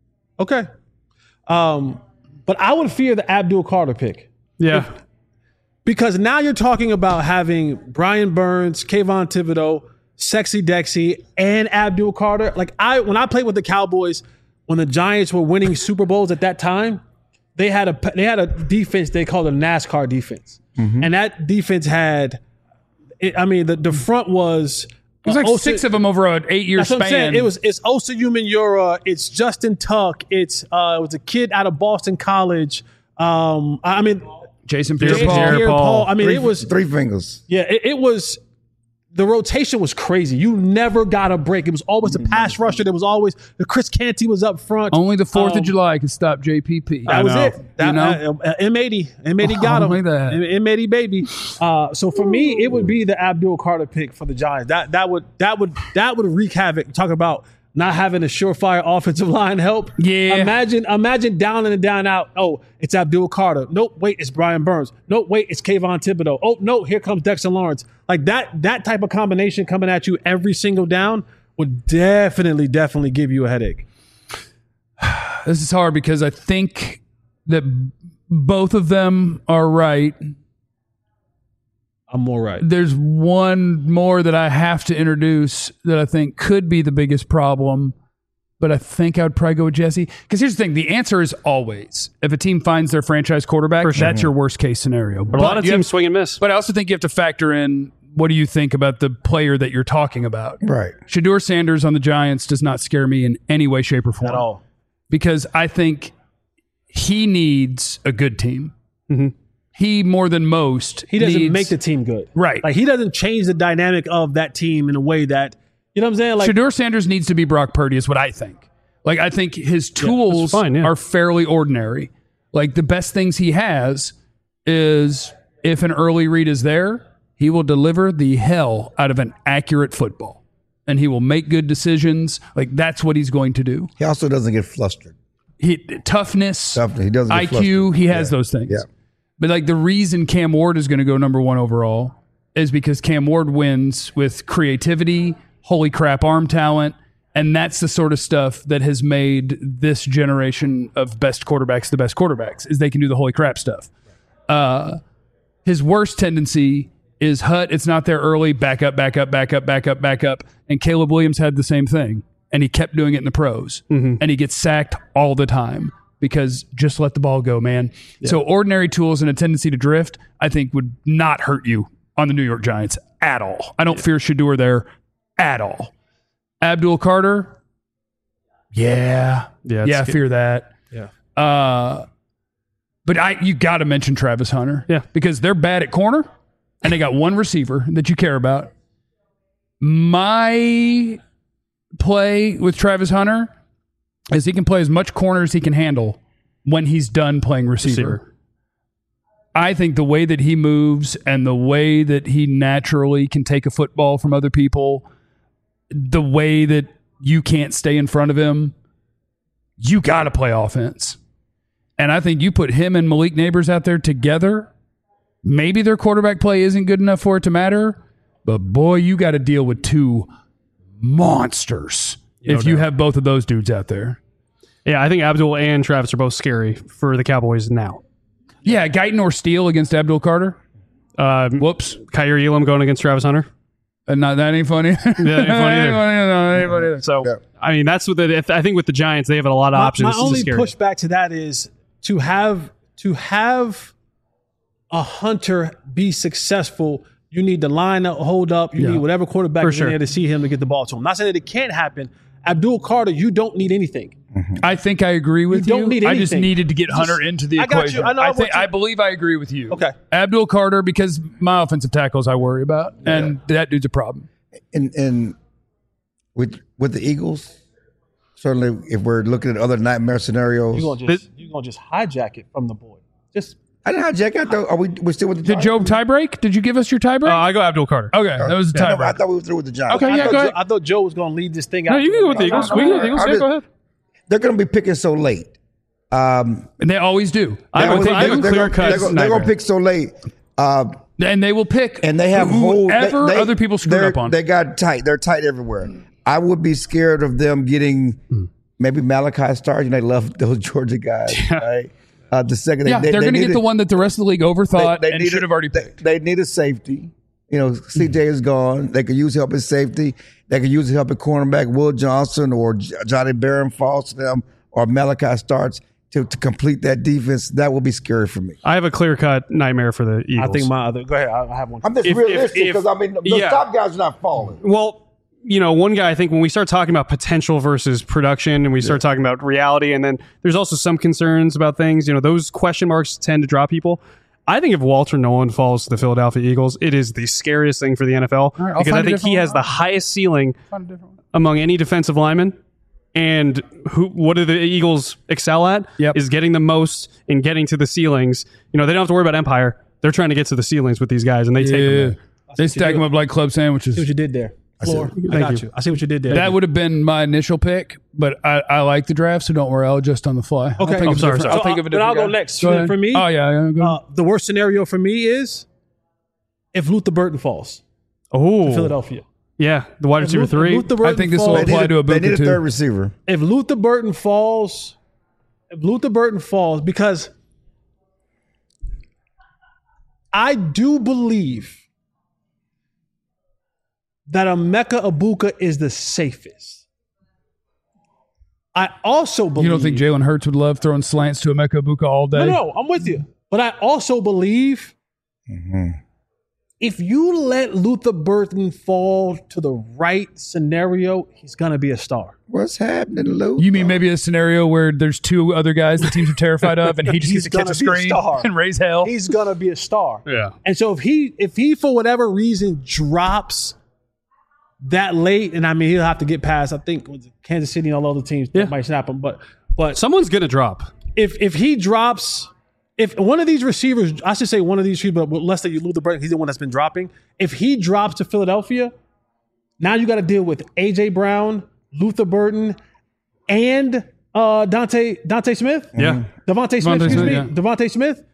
But I would fear the Abdul Carter pick. Yeah. Because now you're talking about having Brian Burns, Kayvon Thibodeau, Sexy Dexy, and Abdul Carter. Like when I played with the Cowboys, when the Giants were winning Super Bowls at that time, they had a defense they called a NASCAR defense. And that defense had, the front was It was like 6 of them over an 8-year span. What I'm saying. It's Osa Umenyiora. It's Justin Tuck. It was a kid out of Boston College. Jason Pierre-Paul. I mean, it was 3 fingers. Yeah, it was. The rotation was crazy. You never got a break. It was always a pass rusher. There was always the Chris Canty was up front. Only the 4th of July could stop JPP. That was it. M80 got him. M80 baby. So for me, it would be the Abdul Carter pick for the Giants. That would wreak havoc. Talk about not having a surefire offensive line help. Yeah. Imagine down in and down out. Oh, it's Abdul Carter. Nope, wait, it's Brian Burns. Nope, wait, it's Kayvon Thibodeau. Oh, no, here comes Dexter Lawrence. Like that type of combination coming at you every single down would definitely give you a headache. This is hard because I think that both of them are right. I'm more right. There's one more that I have to introduce that I think could be the biggest problem, but I think I would probably go with Jesse. Because here's the thing. The answer is always, if a team finds their franchise quarterback, that's your worst case scenario. But a lot of teams swing and miss. But I also think you have to factor in, what do you think about the player that you're talking about? Right. Shedeur Sanders on the Giants does not scare me in any way, shape, or form. At all. Because I think he needs a good team. Mm-hmm. He, more than most, he doesn't make the team good. Right. Like, he doesn't change the dynamic of that team in a way that, you know what I'm saying? Like, Shedeur Sanders needs to be Brock Purdy is what I think. Like, I think his tools are fairly ordinary. Like, the best things he has is, if an early read is there, he will deliver the hell out of an accurate football. And he will make good decisions. Like, that's what he's going to do. He also doesn't get flustered. Toughness, he doesn't get IQ, flustered. he has those things. Yeah. But like, the reason Cam Ward is going to go number 1 overall is because Cam Ward wins with creativity, holy crap arm talent, and that's the sort of stuff that has made this generation of best quarterbacks the best quarterbacks, is they can do the holy crap stuff. His worst tendency is Hutt, it's not there early, back up. And Caleb Williams had the same thing, and he kept doing it in the pros. Mm-hmm. And he gets sacked all the time. Because just let the ball go, man. Yeah. So ordinary tools and a tendency to drift, I think, would not hurt you on the New York Giants at all. I don't fear Shedeur there at all. Abdul Carter, I fear that. Yeah. But you got to mention Travis Hunter. Yeah. Because they're bad at corner, and they got one receiver that you care about. My play with Travis Hunter is he can play as much corner as he can handle when he's done playing receiver. I think the way that he moves and the way that he naturally can take a football from other people, the way that you can't stay in front of him, you got to play offense. And I think you put him and Malik Neighbors out there together, maybe their quarterback play isn't good enough for it to matter, but boy, you got to deal with 2 monsters. If you have both of those dudes out there. Yeah, I think Abdul and Travis are both scary for the Cowboys now. Yeah, Guyton or Steele against Abdul Carter. Whoops. Kyer Elam going against Travis Hunter. That ain't funny. Yeah, that ain't funny either. So, I mean, that's what I think with the Giants, they have a lot of options. My only pushback to that is to have a Hunter be successful, you need the line up, hold up. You need whatever quarterback is in there to see him to get the ball to him. I'm not saying that it can't happen. Abdul Carter, you don't need anything. Mm-hmm. I think I agree with you. You don't need anything. I just needed to get Hunter into the equation. I believe I agree with you. Okay. Abdul Carter, because my offensive tackles I worry about, and that dude's a problem. And with the Eagles, certainly if we're looking at other nightmare scenarios, you're gonna just hijack it from the board. I didn't hijack it. Are we still with the Did Joe tiebreak? Did you give us your tiebreak? I go Abdul Carter. Okay, that was the tiebreak. I thought we were through with the Giants. Okay, go ahead. I thought Joe was going to lead this thing out. No, you can go with the Eagles. We can go with the Eagles. Go ahead. They're going to be picking so late. And they always do. They're going to pick so late. And they will pick and they have whoever other people screwed up on. They got tight. They're tight everywhere. I would be scared of them getting maybe Malachi Starr. They love those Georgia guys, right? The second, they're going to get the one that the rest of the league overthought and should have already picked. They need a safety. CJ is gone. They could use help at safety. They could use help at cornerback. Will Johnson or Johnny Barron falls to them, or Malachi starts to complete that defense. That will be scary for me. I have a clear-cut nightmare for the Eagles. I think go ahead. I have one. I'm just realistic because the top guys are not falling. Well, one guy, I think when we start talking about potential versus production and we start talking about reality, and then there's also some concerns about things, those question marks tend to draw people. I think if Walter Nolan falls to the Philadelphia Eagles, it is the scariest thing for the NFL because I think he has the highest ceiling among any defensive lineman. And what do the Eagles excel at? Is getting the most and getting to the ceilings. They don't have to worry about empire. They're trying to get to the ceilings with these guys, and they take them there. They stack them up like club sandwiches. See what you did there. Floor. I got you. I see what you did there. That would have been my initial pick, but I like the draft, so don't worry. I'll adjust on the fly. Okay. I'll think of a different I'll go guy. next. Go For me, go the worst scenario for me is if Luther Burton falls to Philadelphia. Yeah, the wide receiver 3. I think this will apply to a They need a too. third receiver. If Luther Burton falls, because I do believe that Emeka Egbuka is the safest. I also believe... You don't think Jalen Hurts would love throwing slants to Emeka Egbuka all day? No, I'm with you. But I also believe if you let Luther Burton fall to the right scenario, he's going to be a star. What's happening, Lou? You mean maybe a scenario where there's 2 other guys the teams are terrified of, and he just gets to catch a screen and raise hell? He's going to be a star. Yeah. And so if he for whatever reason drops that late, and I mean he'll have to get past, I think, Kansas City and all other teams that might snap him, but someone's going to drop. If he drops, if one of these receivers, I should say one of these receivers, but let's say you lose the break, he's the one that's been dropping. If he drops to Philadelphia, now you got to deal with A.J. Brown, Luther Burton, and Devontae Smith. Yeah. Devontae Smith.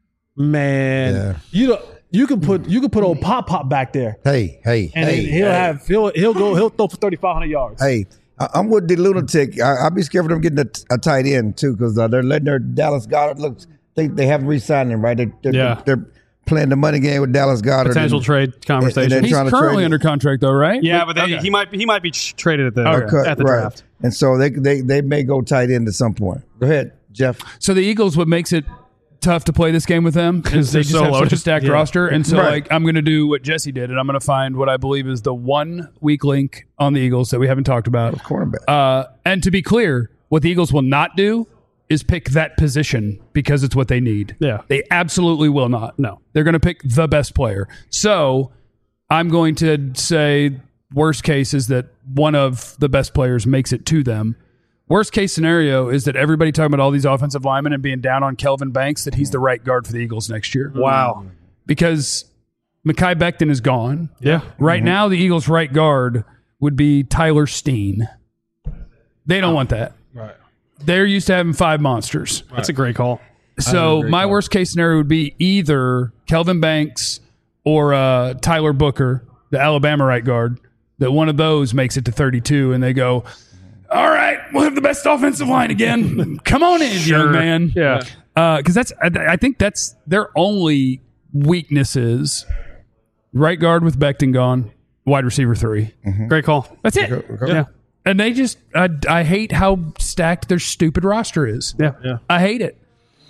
Man, you can put old Pop back there. He'll throw for 3,500 yards. Hey, I'm with the lunatic. I'll be scared for them getting a tight end too, because they're letting their Dallas Goedert think they haven't re-signed him, right? They're playing the money game with Dallas Goedert. Potential trade conversation. He's currently under contract though, right? Yeah, but he might be traded at the draft. And so they may go tight end at some point. Go ahead, Jeff. So the Eagles, what makes it tough to play this game with them because they just have such a stacked roster, and so I'm going to do what Jesse did, and I'm going to find what I believe is the one weak link on the Eagles that we haven't talked about. Cornerback. And to be clear, what the Eagles will not do is pick that position because it's what they need. Yeah, they absolutely will not. No, they're going to pick the best player. So I'm going to say worst case is that one of the best players makes it to them. Worst case scenario is that everybody talking about all these offensive linemen and being down on Kelvin Banks, that he's the right guard for the Eagles next year. Wow. Because Mekhi Becton is gone. Yeah. Right now, the Eagles' right guard would be Tyler Steen. They don't want that. Right. They're used to having 5 monsters. That's a great call. So my worst case scenario would be either Kelvin Banks or Tyler Booker, the Alabama right guard, that one of those makes it to 32 and they go, all right, we'll have the best offensive line again. Come on in, young man. Yeah. Because I think that's their only weaknesses. Right guard with Becton gone, wide receiver 3. Great call. That's it. Yeah. And they just, I hate how stacked their stupid roster is. Yeah. I hate it.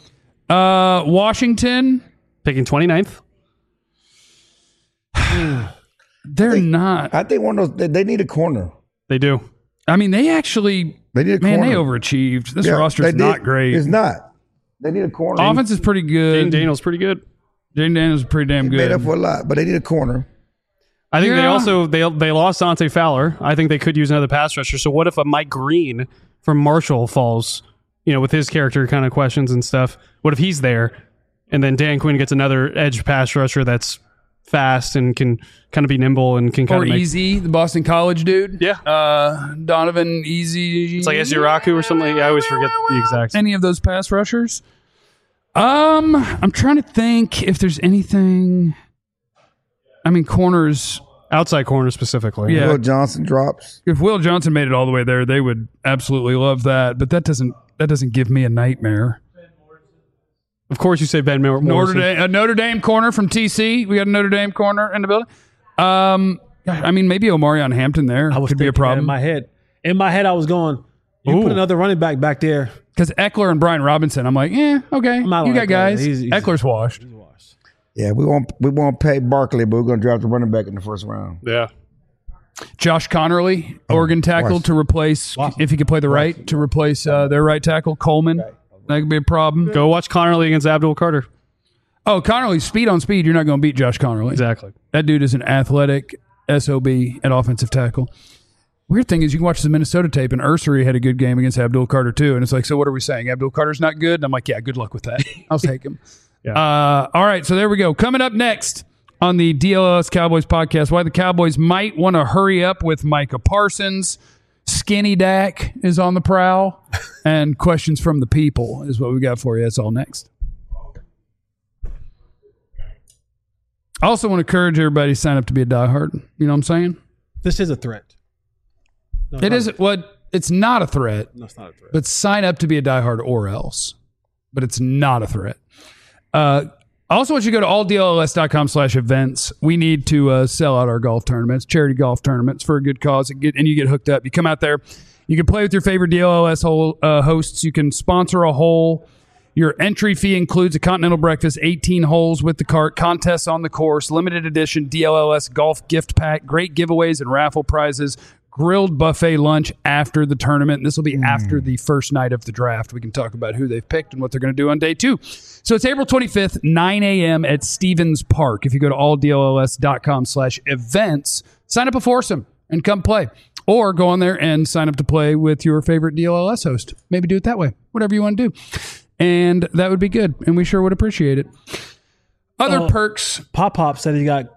Washington. Picking 29th. They're not. I think one of those, they need a corner. They do. I mean, they need a corner. They overachieved. This roster is not great. It's not. They need a corner. Offense is pretty good. Jaden Daniels pretty good. Jaden Daniels is pretty damn good. Made up for a lot, but they need a corner. I think they also they lost Dante Fowler. I think they could use another pass rusher. So what if a Mike Green from Marshall falls, with his character kind of questions and stuff? What if he's there, and then Dan Quinn gets another edge pass rusher that's fast and can kind of be nimble and can kind of Easy, the Boston College dude. Yeah. Edonovan Easy. It's like Eziraku or something. I always forget the exact. Any of those pass rushers? I'm trying to think if there's anything. I mean, corners. Outside corner specifically. Yeah. Will Johnson drops. If Will Johnson made it all the way there, they would absolutely love that. But that doesn't give me a nightmare. Of course, you say Ben Morrison. A Notre Dame corner from TC. We got a Notre Dame corner in the building. I mean, maybe Omarion Hampton there could be a problem. In my head, I was going, put another running back there. Because Eckler and Brian Robinson, I'm like, okay, you got guys. Eckler's washed. Yeah, we won't pay Barkley, but we're going to draft the running back in the first round. Yeah. Josh Connerly, Oregon tackle, to replace, if he could play the right, to replace their right tackle, Coleman. That could be a problem. Go watch Connerly against Abdul Carter. Oh, Connerly, speed on speed. You're not going to beat Josh Connerly. Exactly. That dude is an athletic SOB at offensive tackle. Weird thing is you can watch the Minnesota tape, and Ursery had a good game against Abdul Carter too. And it's like, so what are we saying? Abdul Carter's not good? And I'm like, yeah, good luck with that. I'll take him. Yeah. All right, so there we go. Coming up next on the DLLS Cowboys podcast, why the Cowboys might want to hurry up with Micah Parsons. Skinny Dak is on the prowl, and questions from the people is what we got for you. That's all next. I also want to encourage everybody to sign up to be a diehard. You know what I'm saying? This is a threat. No, It isn't what it's not a threat. No, it's not a threat. But sign up to be a diehard or else. But it's not a threat. I also want you to go to alldlls.com/events. We need to sell out our golf tournaments, charity golf tournaments for a good cause, and you get hooked up. You come out there. You can play with your favorite DLLS hosts. You can sponsor a hole. Your entry fee includes a continental breakfast, 18 holes with the cart, contests on the course, limited edition DLLS golf gift pack, great giveaways and raffle prizes, grilled buffet lunch after the tournament. And this will be after the first night of the draft. We can talk about who they've picked and what they're going to do on day 2. So it's April 25th, 9 a.m. at Stevens Park. If you go to alldlls.com/events, sign up a foursome and come play. Or go on there and sign up to play with your favorite DLLS host. Maybe do it that way. Whatever you want to do. And that would be good. And we sure would appreciate it. Other perks. Pop said you got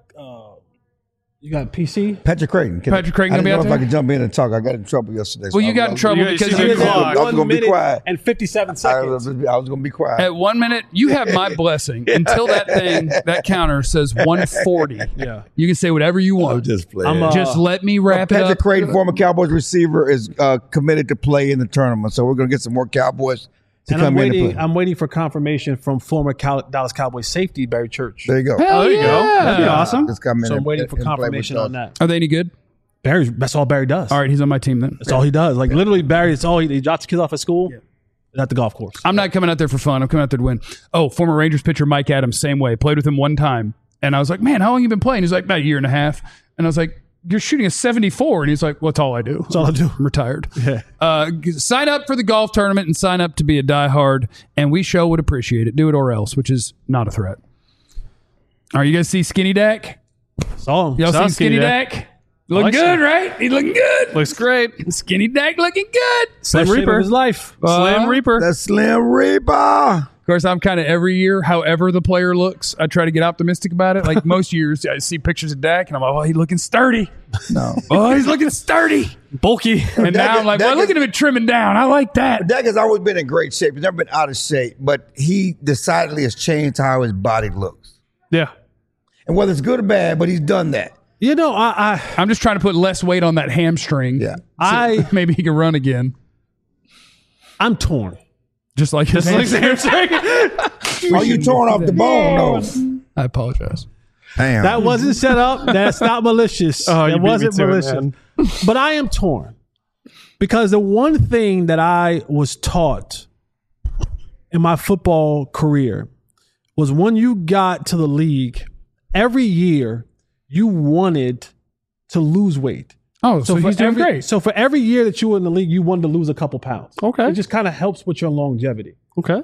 PC. Patrick Creighton. Patrick Creighton I gonna be didn't out know there? if I could jump in and talk. I got in trouble yesterday. Well, you got in trouble because you did I was going to be quiet. And 57 seconds. I was going to be quiet. At 1 minute, you have my blessing. Until that counter says 140. Yeah. You can say whatever you want. I'm just playing. Just let me wrap it up. Patrick Creighton, former Cowboys receiver, is committed to play in the tournament. So we're going to get some more Cowboys to And come in and play. I'm waiting for confirmation from former Dallas Cowboys safety Barry Church. There you go. Hell there you go. yeah. That'd be awesome. Just come in So I'm and- waiting for and play with confirmation us. on that. Are they any good? That's all Barry does. All right, he's on my team then. That's all he does. Like literally, Barry. It's all he drops the kids off at school. At the golf course. I'm not coming out there for fun. I'm coming out there to win. Oh, former Rangers pitcher Mike Adams, same way. Played with him one time. And I was like, man, how long you been playing? He's like, about a year and a half. And I was like, you're shooting a 74. And he's like, well, that's all I do. That's all I do. I'm retired. Yeah. Sign up for the golf tournament and sign up to be a diehard. And we sure would appreciate it. Do it or else, which is not a threat. All right, you guys see Skinny Dak? Saw him. Y'all Saw see Skinny Dak? Looking like good, so. right? He's looking good. Looks great. Skinny Dak looking good. Slim Best shape of Reaper. his life. Slim Reaper. The Slim Reaper. Of course, I'm kind of every year, however the player looks, I try to get optimistic about it. Like most years, I see pictures of Dak, and I'm like, oh, he's looking sturdy. No. Oh, he's looking sturdy. Bulky. And now I'm like, well, look at him trimming down. I like that. Dak has always been in great shape. He's never been out of shape, but he decidedly has changed how his body looks. Yeah. And whether it's good or bad, but he's done that. You know, I I'm just trying to put less weight on that hamstring. Yeah. So maybe he can run again. I'm torn. Just like his hamstring. Oh, you torn off the bone, though. I apologize. Damn. That wasn't set up. That's not malicious. Oh, you that beat me wasn't to it, malicious. man. But I am torn because the one thing that I was taught in my football career was when you got to the league, every year you wanted to lose weight. Oh, so he's doing great. So for every year that you were in the league, you wanted to lose a couple pounds. Okay. It just kind of helps with your longevity. Okay.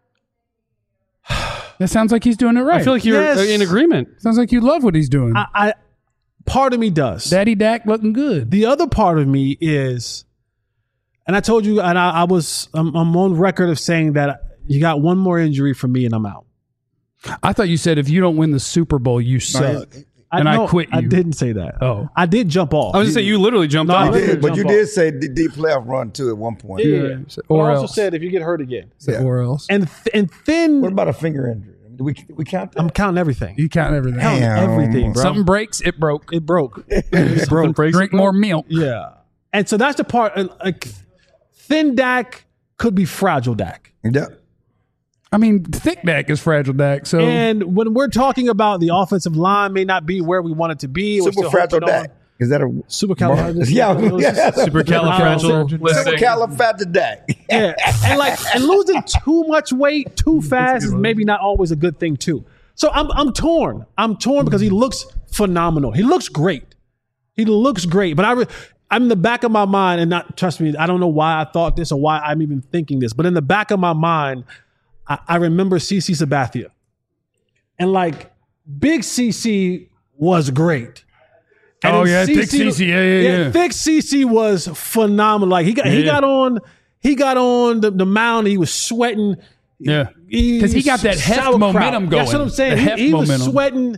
That sounds like he's doing it right. I feel like you're Yes. in agreement. sounds like you love what he's doing. I part of me does. Daddy Dak looking good. The other part of me is, and I told you, and I'm on record of saying that you got one more injury from me and I'm out. I thought you said if you don't win the Super Bowl, you suck. And I quit you. I didn't say that. Oh. I did jump off. I was going to say, you literally jumped No, off. I You did, but jump you off. did say the deep playoff run, too, at one point. Yeah. But Or I also else. said if you get hurt again. Yeah. Or else. And then What about a finger injury? Do we count that? I'm counting everything. You count everything. Counting everything, bro. Something breaks, it broke. It broke. It broke. Drink more milk. Yeah. And so that's the part. Like, thin Dak could be fragile Dak. Yeah. I mean, thick Dak is fragile Dak. So And when we're talking about the offensive line may not be where we want it to be. we're Super still fragile holding on. Dak. Is that a Supercalifragilistic. Yeah. Supercalifragilistic. Supercalifragilistic. Yeah, and losing too much weight too fast is maybe not always a good thing too. So I'm torn. I'm torn because he looks phenomenal. He looks great. He looks great, but I'm in the back of my mind, and not trust me, I don't know why I thought this or why I'm even thinking this, but in the back of my mind, I remember CeCe Sabathia. And like, Big CeCe was great. And Thick CeCe, yeah. Thick CeCe was phenomenal. Like he got on the mound, he was sweating. Yeah, because he got that heft momentum going. That's what I'm saying. He was sweating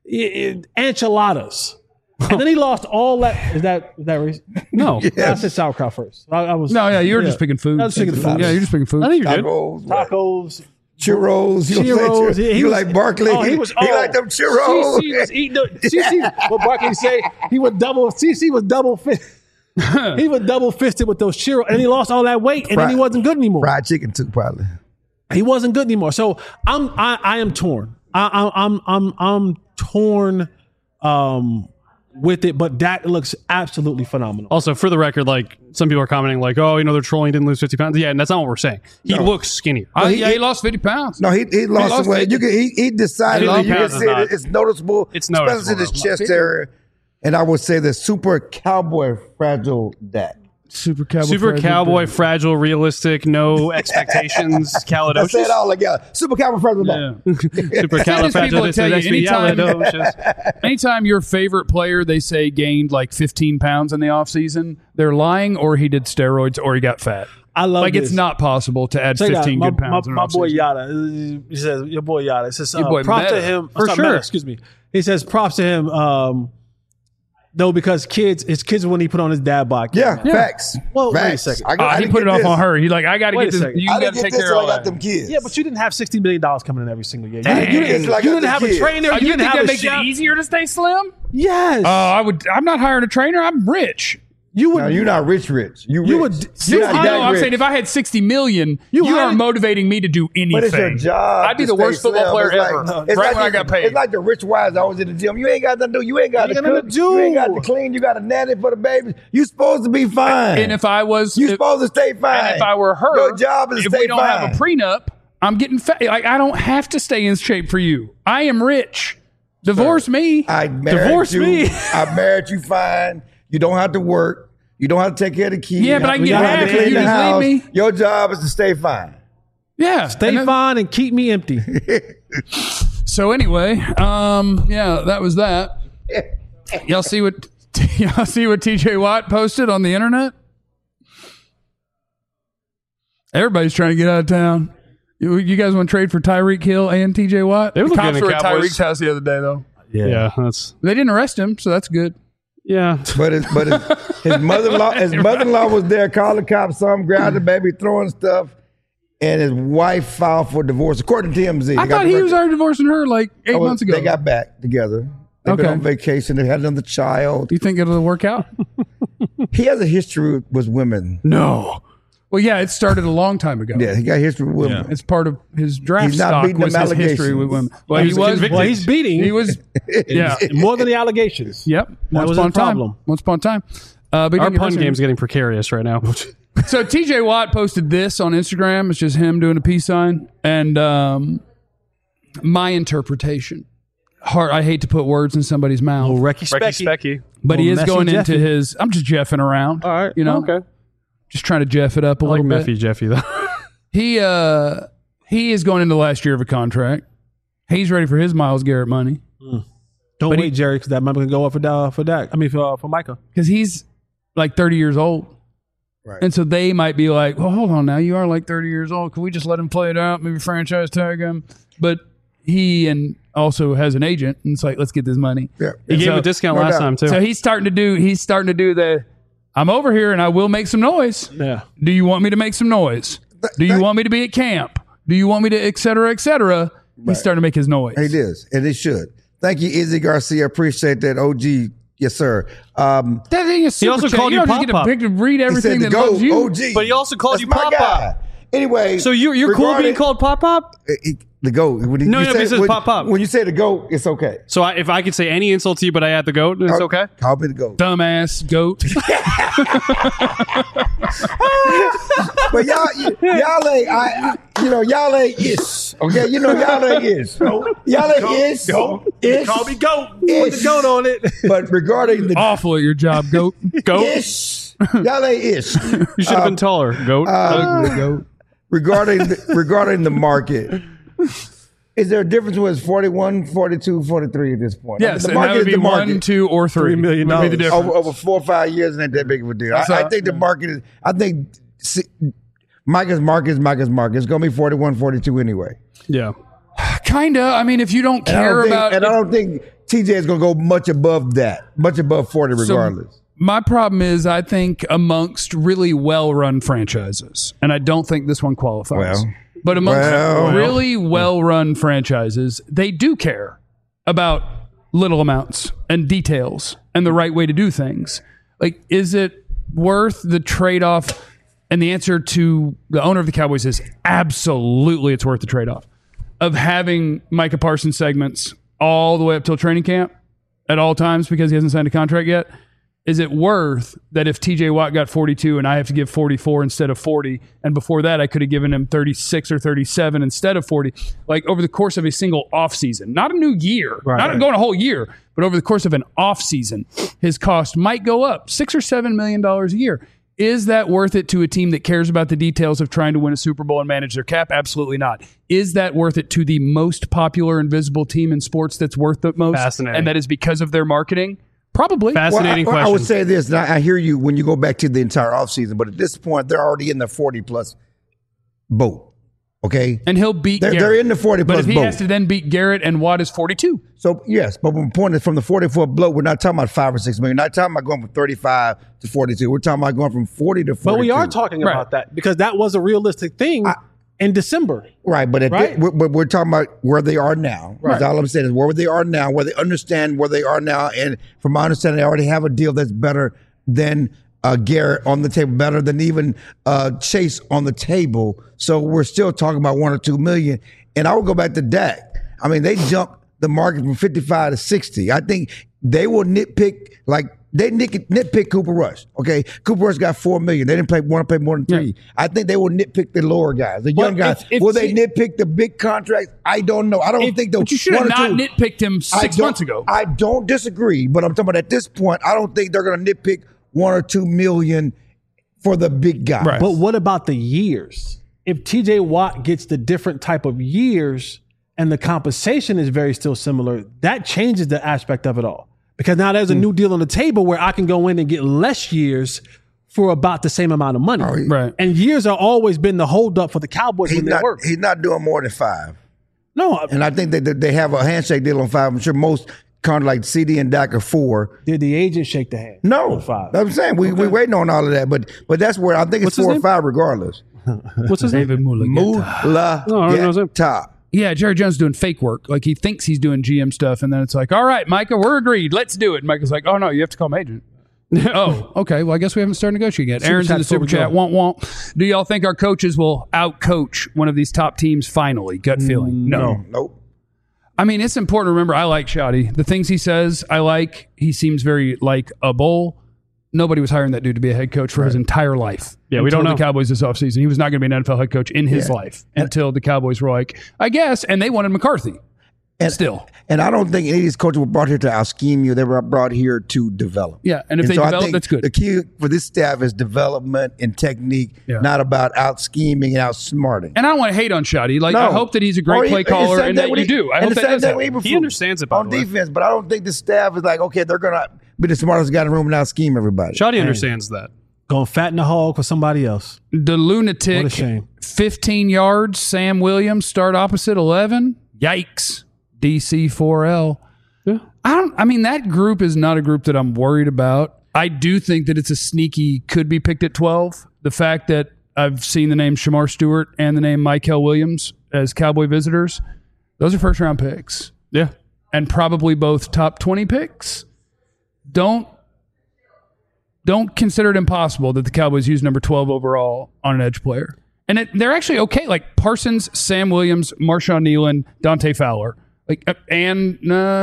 enchiladas. And then he lost all that. Is that race? No. I said sauerkraut first. I was. No, yeah, you were just picking food. I was picking food. Yeah, you're just picking food. I think you're good. Tacos. Churros. You like Barkley. He liked them churros. CeCe was eating what Barkley say, CeCe was double fisted. He was double fisted with those churros. And he lost all that weight, and then he wasn't good anymore. Fried chicken too, probably. He wasn't good anymore. So I am torn. I'm torn with it, but Dak looks absolutely phenomenal. Also, for the record, like some people are commenting, like, "Oh, they're trolling. Didn't lose 50 pounds." Yeah, and that's not what we're saying. He looks skinnier. He lost 50 pounds. No, he lost some weight. He decided that you can see it's noticeable. It's noticeable, especially in his chest area. And I would say the super cowboy fragile Dak. Super cowboy, fragile, realistic, no expectations, calidocious. I say it all together. Super cowboy fragile Dak. Super califragilisticexpialidocious. Anytime your favorite player, they say, gained like 15 pounds in the offseason, they're lying, or he did steroids, or he got fat. I love like this. It's not possible to add 15 good pounds. My boy Yada, he says, your boy Yada. It says, props to him. For sure. Excuse me. He says, props to him. No, because his kids when he put on his dad bod. Yeah, facts. Well, facts. wait a second. He put it off on her. He's like, I got to get this. You got to take care of all that. Them kids. Yeah, but you didn't have $60 million coming in every single year. You didn't have a trainer. You think that makes it easier to stay slim? Yes. I'm not hiring a trainer. I'm rich. No, you're not rich. You would. I'm saying if I had $60 million, you are motivating me to do anything. But it's your job. I'd be the worst football player ever. Right when I got paid. It's like the rich wives always in the gym. You ain't got nothing to do. You ain't got to cook. You ain't got to clean. You got to nanny for the baby. You supposed to be fine. And if I was, you supposed to stay fine. And if I were her, your job is to stay fine. If we don't have a prenup, I'm getting fat. Like I don't have to stay in shape for you. I am rich. Divorce me. I married you fine. You don't have to work. You don't have to take care of the kids. Yeah, but I can get half if you just leave me. Your job is to stay fine. Yeah. Stay fine and keep me empty. So anyway, that was that. Y'all see what TJ Watt posted on the internet? Everybody's trying to get out of town. You guys want to trade for Tyreek Hill and TJ Watt? They were cops were at Tyreek's house the other day, though. Yeah, they didn't arrest him, so that's good. Yeah, but his mother-in-law was there, called the cops, saw him grab the baby, throwing stuff, and his wife filed for divorce, according to TMZ. I thought he was already divorcing her like 8 months ago. They got back together. They've been on vacation. They had another child. Do you think it'll work out? He has a history with women. No. Well, yeah, it started a long time ago. Yeah, he got history with women. Yeah. It's part of his draft He's not stock beating was them his history with women. Well, he's beating. He was, more than the allegations. Yep. That was a problem. Once upon a time. Our pun game's getting precarious right now. So TJ Watt posted this on Instagram. It's just him doing a peace sign. And my interpretation. I hate to put words in somebody's mouth. Oh, Recky Specky. But he is going into his, I'm just jeffing around. All right. You know? Okay. Just trying to jeff it up a little bit. Meffy Jeffy, though. He is going into the last year of a contract. He's ready for his Myles Garrett money. Don't wait, Jerry, because that money can go up for Dak. I mean, for Micah. Because he's like 30 years old. Right. And so they might be like, well, hold on now. You are like 30 years old. Can we just let him play it out? Maybe franchise tag him? But he also has an agent. And it's like, let's get this money. Yeah. He gave a discount last time, too. So he's starting to do the, I'm over here and I will make some noise. Yeah. Do you want me to make some noise? Do you want me to be at camp? Do you want me to et cetera, et cetera? He's starting to make his noise. He is, and he should. Thank you, Izzy Garcia. Appreciate that, OG. Yes, sir. That thing is super. He also called you Pop Pop. To read everything that loves you. OG. But he also called you Pop Pop. Anyway, so you're cool being called Pop Pop? The GOAT. No, it says Pop Pop. When you say the GOAT, it's okay. So if I could say any insult to you, but I add the GOAT, it's okay? Call me the GOAT. Dumbass GOAT. But y'all ain't, y'all ain't, Okay, you know y'all ain't ish. Y'all ain't ish. Ish. Call me goat. Put the goat on it. But regarding the Awful at your job, goat. Goat. ish, y'all ain't ish. You should have been taller, goat. Ugly goat. Regarding the market, is there a difference when it's 41, 42, 43 at this point? Yes, I mean, and that would be market. 1, 2, or 3. $3 million. Would be the difference. Over 4 or 5 years, and that big of a deal. I think the market is. I think Micah's market is Micah's market. It's going to be 41, 42 anyway. Yeah. Kinda. I mean, if you don't care about, I don't think TJ is going to go much above that, much above 40, regardless. My problem is, I think amongst really well-run franchises, and I don't think this one qualifies, but amongst really well-run franchises, they do care about little amounts and details and the right way to do things. Like, is it worth the trade-off? And the answer to the owner of the Cowboys is absolutely it's worth the trade-off of having Micah Parsons segments all the way up till training camp at all times because he hasn't signed a contract yet. Is it worth that if TJ Watt got 42 and I have to give 44 instead of 40, and before that I could have given him 36 or 37 instead of 40, like over the course of a single offseason, not a new year, not going a whole year, but over the course of an offseason, his cost might go up $6 or $7 million a year. Is that worth it to a team that cares about the details of trying to win a Super Bowl and manage their cap? Absolutely not. Is that worth it to the most popular and visible team in sports that's worth the most? Fascinating. And that is because of their marketing? Probably. Fascinating question. I would say this, and I hear you when you go back to the entire offseason, but at this point, they're already in the 40-plus boat, okay? And he'll beat Garrett. They're in the 40-plus boat. But if he has to then beat Garrett and Watt is 42. So, yes, but my point is from the 44 bloat, we're not talking about 5 or 6 million. We're not talking about going from 35 to 42. We're talking about going from 40 to 42. But we are talking about that because that was a realistic thing in December. Right, but we're talking about where they are now. Right. All I'm saying is where they are now, where they understand where they are now. And from my understanding, they already have a deal that's better than Garrett on the table, better than even Chase on the table. So we're still talking about 1 or 2 million. And I will go back to Dak. I mean, they jumped the market from 55 to 60. I think they will nitpick, like they nitpick Cooper Rush. Okay, Cooper Rush got $4 million. They didn't want to pay more than 3. Yeah. I think they will nitpick the lower guys, the young guys. Will they nitpick the big contracts? I don't know. I don't think they'll. But you should have not nitpicked him 6 months ago. I don't disagree, but I'm talking about at this point, I don't think they're going to nitpick 1 or 2 million for the big guys. Right. But what about the years? If TJ Watt gets the different type of years and the compensation is very still similar, that changes the aspect of it all. Because now there's a new deal on the table where I can go in and get less years for about the same amount of money. Right. And years have always been the holdup for the Cowboys when they work. He's not doing more than 5. No. And I think that they have a handshake deal on 5. I'm sure most kind of like CD and Dak are 4. Did the agent shake the hand? No. On 5? I'm saying we're waiting on all of that. But that's where I think it's 4 or 5 regardless. What's his name? David Mulageta. Yeah, Jerry Jones doing fake work. Like he thinks he's doing GM stuff, and then it's like, all right, Micah, we're agreed. Let's do it. And Micah's like, oh, no, you have to call my agent. Oh, okay. Well, I guess we haven't started negotiating yet. Aaron's in the super chat. Womp. Do y'all think our coaches will out-coach one of these top teams finally? Gut feeling? No. Nope. I mean, it's important to remember, I like Shoddy. The things he says, I like. He seems very like a bull. Nobody was hiring that dude to be a head coach for his entire life. Yeah, we don't know. The Cowboys this offseason. He was not going to be an NFL head coach in his life until the Cowboys were like, I guess, and they wanted McCarthy. And I don't think any of these coaches were brought here to out-scheme you. They were brought here to develop. Yeah, and if they develop, that's good. The key for this staff is development and technique, not about out-scheming and out-smarting. And I don't want to hate on Shoddy. Like, I hope that he's a great play caller and that you do. I hope that does happen. He understands it, by on defense, but I don't think the staff is like, okay, they're going to be the smartest guy in the room and out-scheme everybody. Shoddy understands that. Go fatten the hog for somebody else. The lunatic, what a shame. 15 yards, Sam Williams, start opposite 11. Yikes. DC4L. Yeah. I mean, that group is not a group that I'm worried about. I do think that it's a sneaky, could be picked at 12. The fact that I've seen the name Shamar Stewart and the name Mykel Williams as Cowboy visitors, those are first-round picks. Yeah. And probably both top 20 picks. Don't consider it impossible that the Cowboys use number 12 overall on an edge player. And they're actually okay. Like Parsons, Sam Williams, Marshawn Nealon, Dante Fowler. Like and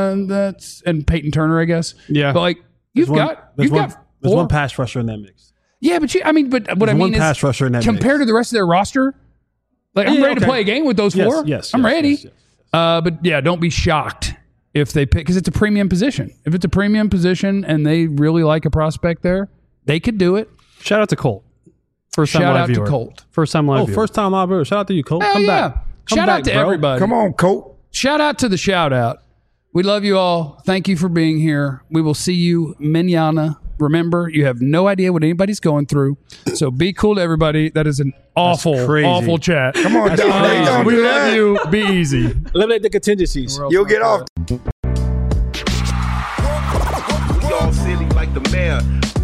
Peyton Turner, I guess. Yeah. But like There's one pass rusher in that mix. Yeah, but what I mean is pass rusher in that compared to the rest of their roster, Like, I'm ready to play a game with those four. Yes, I'm ready. But yeah, don't be shocked if they pick, because it's a premium position. If it's a premium position and they really like a prospect there, they could do it. Shout out to Colt. First time Shout live out viewer. to Colt. First time live viewer. First time live viewer. Shout out to you, Colt. Hell Come yeah. back. Shout out to everybody. Come on, Colt. Shout out to the shout out. We love you all. Thank you for being here. We will see you mañana. Remember, you have no idea what anybody's going through. So be cool to everybody. That is an awful chat. Come on, Don. We love you. Be easy. Eliminate the contingencies. You'll get off. We all silly like the mayor.